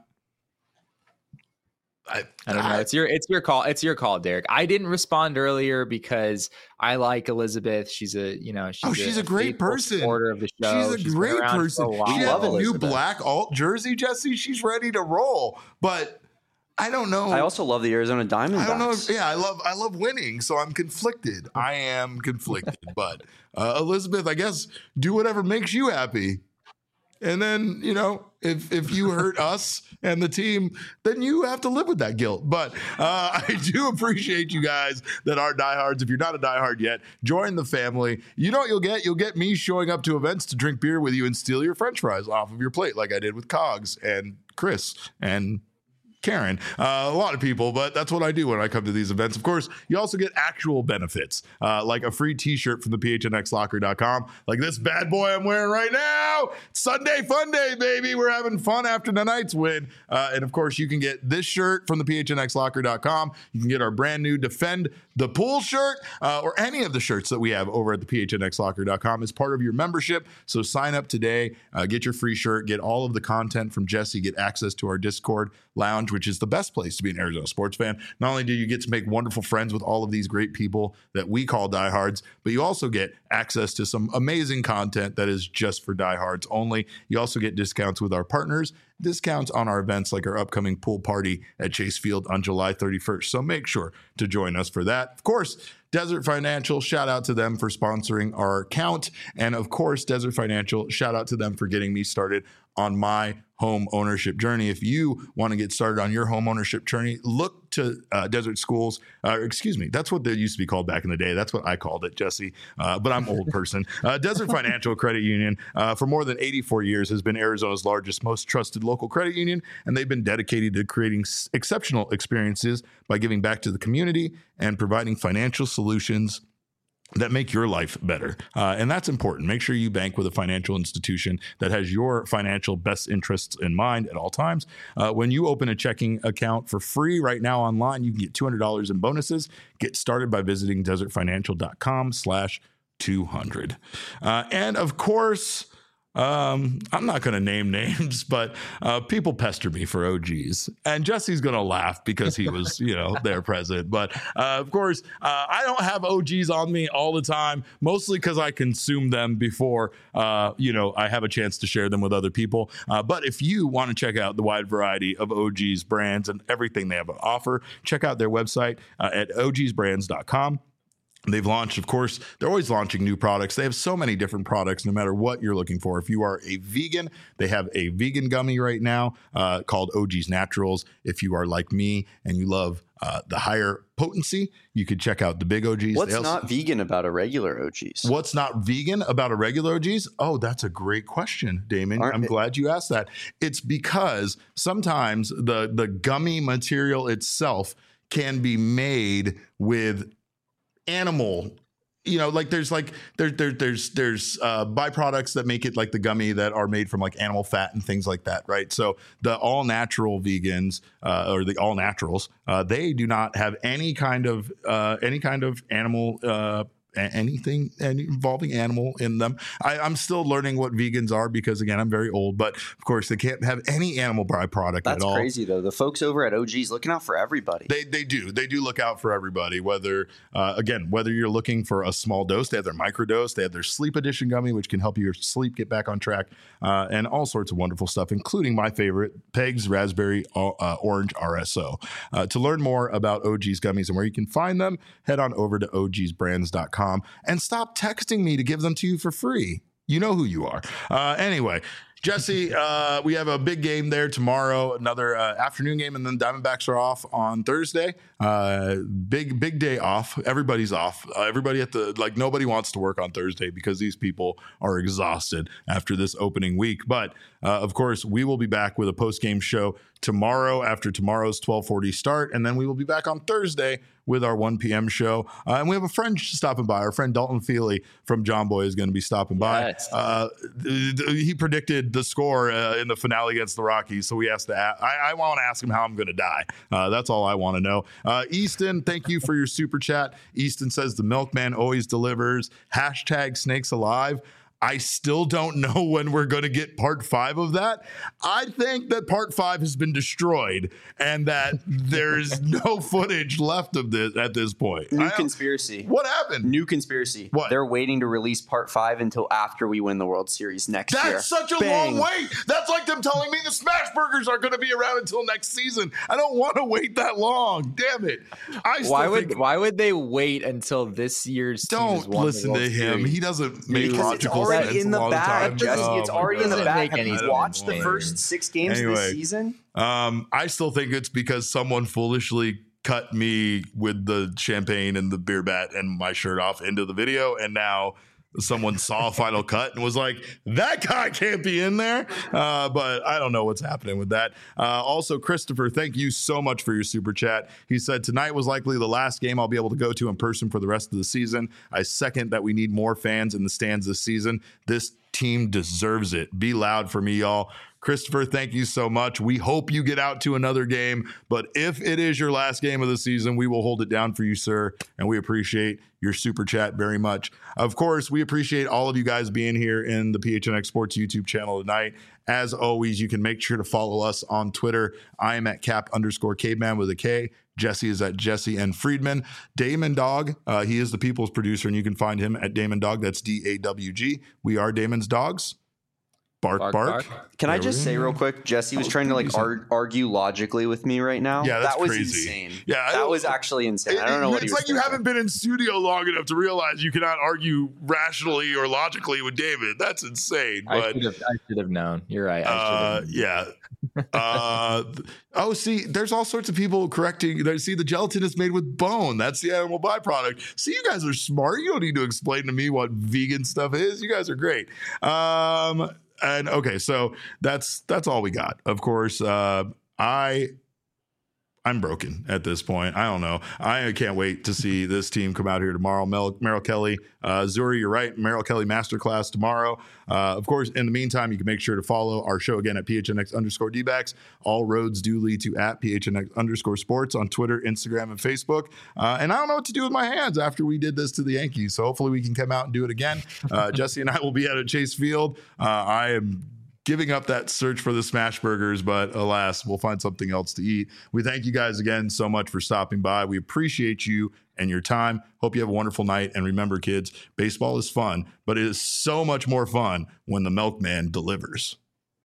I, I don't know. It's your it's your call. It's your call, Derek. I didn't respond earlier because I like Elizabeth. She's a you know she's oh she's a, a great person. Supporter of the show. She's a she's great person. A she has a new black alt jersey, Jesse. She's ready to roll. But I don't know. I also love the Arizona Diamondbacks. I don't know. If, yeah, I love I love winning, so I'm conflicted. I am conflicted. But uh, Elizabeth, I guess do whatever makes you happy. And then, you know, if if you hurt us and the team, then you have to live with that guilt. But uh, I do appreciate you guys that are diehards. If you're not a diehard yet, join the family. You know what you'll get? You'll get me showing up to events to drink beer with you and steal your French fries off of your plate like I did with Cogs and Chris and Karen, uh, a lot of people, but that's what I do when I come to these events. Of course, you also get actual benefits, uh, like a free t-shirt from the P H N X locker dot com, like this bad boy I'm wearing right now. Sunday fun day, baby. We're having fun after tonight's win. Uh, and of course, you can get this shirt from the P H N X locker dot com. You can get our brand new Defend The pool shirt uh, or any of the shirts that we have over at the P H N X locker dot com is part of your membership. So sign up today, uh, get your free shirt, get all of the content from Jesse, get access to our Discord lounge, which is the best place to be an Arizona sports fan. Not only do you get to make wonderful friends with all of these great people that we call diehards, but you also get access to some amazing content that is just for diehards only. You also get discounts with our partners, discounts on our events like our upcoming pool party at Chase Field on July thirty-first. So make sure to join us for that. Of course, Desert Financial, shout out to them for sponsoring our account. And of course, Desert Financial, shout out to them for getting me started on my home ownership journey. If you want to get started on your home ownership journey, look to uh, Desert Schools. Uh, excuse me, that's what they used to be called back in the day. That's what I called it, Jesse. Uh, but I'm old person. Uh, Desert Financial Credit Union, uh, for more than eighty-four years, has been Arizona's largest, most trusted local credit union, and they've been dedicated to creating s- exceptional experiences by giving back to the community and providing financial solutions that make your life better. Uh, and that's important. Make sure you bank with a financial institution that has your financial best interests in mind at all times. Uh, when you open a checking account for free right now online, you can get two hundred dollars in bonuses. Get started by visiting desert financial dot com slash two hundred. Uh, and of course, Um, I'm not going to name names, but uh, people pester me for O Gs, and Jesse's going to laugh because he was, you know, there present. But uh, of course, uh, I don't have O Gs on me all the time, mostly because I consume them before, uh, you know, I have a chance to share them with other people. Uh, but if you want to check out the wide variety of O Gs brands and everything they have to offer, check out their website uh, at o gs brands dot com. They've launched, of course, they're always launching new products. They have so many different products, no matter what you're looking for. If you are a vegan, they have a vegan gummy right now uh, called O G's Naturals. If you are like me and you love uh, the higher potency, you could check out the big O Gs. What's also, not vegan about a regular O G's? What's not vegan about a regular O G's? Oh, that's a great question, Damon. Aren't I'm it- glad you asked that. It's because sometimes the, the gummy material itself can be made with animal, you know, like there's like there, there there's there's uh byproducts that make it like the gummy that are made from like animal fat and things like that, right? So the all natural vegans uh or the all naturals, uh they do not have any kind of uh any kind of animal uh anything involving animal in them. I, I'm still learning what vegans are because, again, I'm very old, but of course they can't have any animal byproduct That's at all. crazy, though. The folks over at O G's looking out for everybody. They they do. They do look out for everybody, whether, uh, again, whether you're looking for a small dose, they have their microdose, they have their sleep edition gummy, which can help your sleep get back on track, uh, and all sorts of wonderful stuff, including my favorite, Peg's Raspberry uh, Orange R S O. Uh, to learn more about O G's gummies and where you can find them, head on over to o gs brands dot com. And stop texting me to give them to you for free. You know who you are. Uh, anyway, Jesse, uh, we have a big game there tomorrow, another uh, afternoon game, and then Diamondbacks are off on Thursday. Uh, big, big day off. Everybody's off. Uh, everybody at the, like, nobody wants to work on Thursday because these people are exhausted after this opening week. But, uh, of course, we will be back with a post-game show tomorrow after tomorrow's twelve forty start, and then we will be back on Thursday with our one p.m. show. Uh, and we have a friend stopping by. Our friend Dalton Feely from John Boy is going to be stopping by. Yes. Uh, th- th- he predicted the score uh, in the finale against the Rockies, so we asked to a- I, I want to ask him how I'm going to die. Uh, that's all I want to know. Uh, Easton, thank you for your super chat. Easton says the milkman always delivers. Hashtag snakes alive. I still don't know when we're going to get part five of that. I think that part five has been destroyed and that there's no footage left of this at this point. New I- conspiracy. What happened? New conspiracy. What? They're waiting to release part five until after we win the World Series next year. That's such a Bang. long wait. That's like them telling me the Smash Burgers are going to be around until next season. I don't want to wait that long. Damn it. I still Why would think, why would they wait until this year's team has don't won the listen to World him. Series? He doesn't make Because it's logical already sense in a the lot of bag, times. Jesse. Oh It's my already in the God. Doesn't bag. make Have you any watched the sense. first six games Anyway. this season? Um, I still think it's because someone foolishly cut me with the champagne and the beer bat and my shirt off into the video, and now someone saw Final Cut and was like, that guy can't be in there. Uh, but I don't know what's happening with that. Uh, also, Christopher, thank you so much for your super chat. He said, tonight was likely the last game I'll be able to go to in person for the rest of the season. I second that we need more fans in the stands this season. This team deserves it. Be loud for me, y'all. Christopher, thank you so much. We hope you get out to another game, but if it is your last game of the season, we will hold it down for you, sir, and we appreciate your super chat very much. Of course, we appreciate all of you guys being here in the P H N X Sports YouTube channel tonight. As always, you can make sure to follow us on Twitter. I am at cap underscore caveman with a K. Jesse is at Jesse and Friedman. Damon Dog, uh, he is the people's producer, and you can find him at Damon Dog. That's D A W G. We are Damon's Dogs. Bark, bark. bark. Can there I just say real quick, Jesse was oh, trying to like ar- argue logically with me right now. Yeah, that's that was crazy. insane. Yeah, that was actually insane. It, I don't know it, what it's he was like you thinking. haven't been in studio long enough to realize you cannot argue rationally or logically with David. That's insane. But I should have, I should have known. You're right. I uh, yeah. uh, oh, see, there's all sorts of people correcting. They see the gelatin is made with bone. That's the animal byproduct. See, you guys are smart. You don't need to explain to me what vegan stuff is. You guys are great. Um. And okay, so that's that's all we got. Of course, uh, I I'm broken at this point. I don't know. I can't wait to see this team come out here tomorrow. Mel, Merrill Kelly, uh, Zuri, you're right. Merrill Kelly Masterclass tomorrow. Uh, of course, in the meantime, you can make sure to follow our show again at P H N X underscore D-backs. All roads do lead to at P H N X underscore sports on Twitter, Instagram, and Facebook. Uh, and I don't know what to do with my hands after we did this to the Yankees. So hopefully we can come out and do it again. Uh, Jesse and I will be out at Chase Field. Uh, I am giving up that search for the smash burgers, but alas, we'll find something else to eat. We thank you guys again so much for stopping by. We appreciate you and your time. Hope you have a wonderful night. And remember, kids, baseball is fun, but it is so much more fun when the milkman delivers.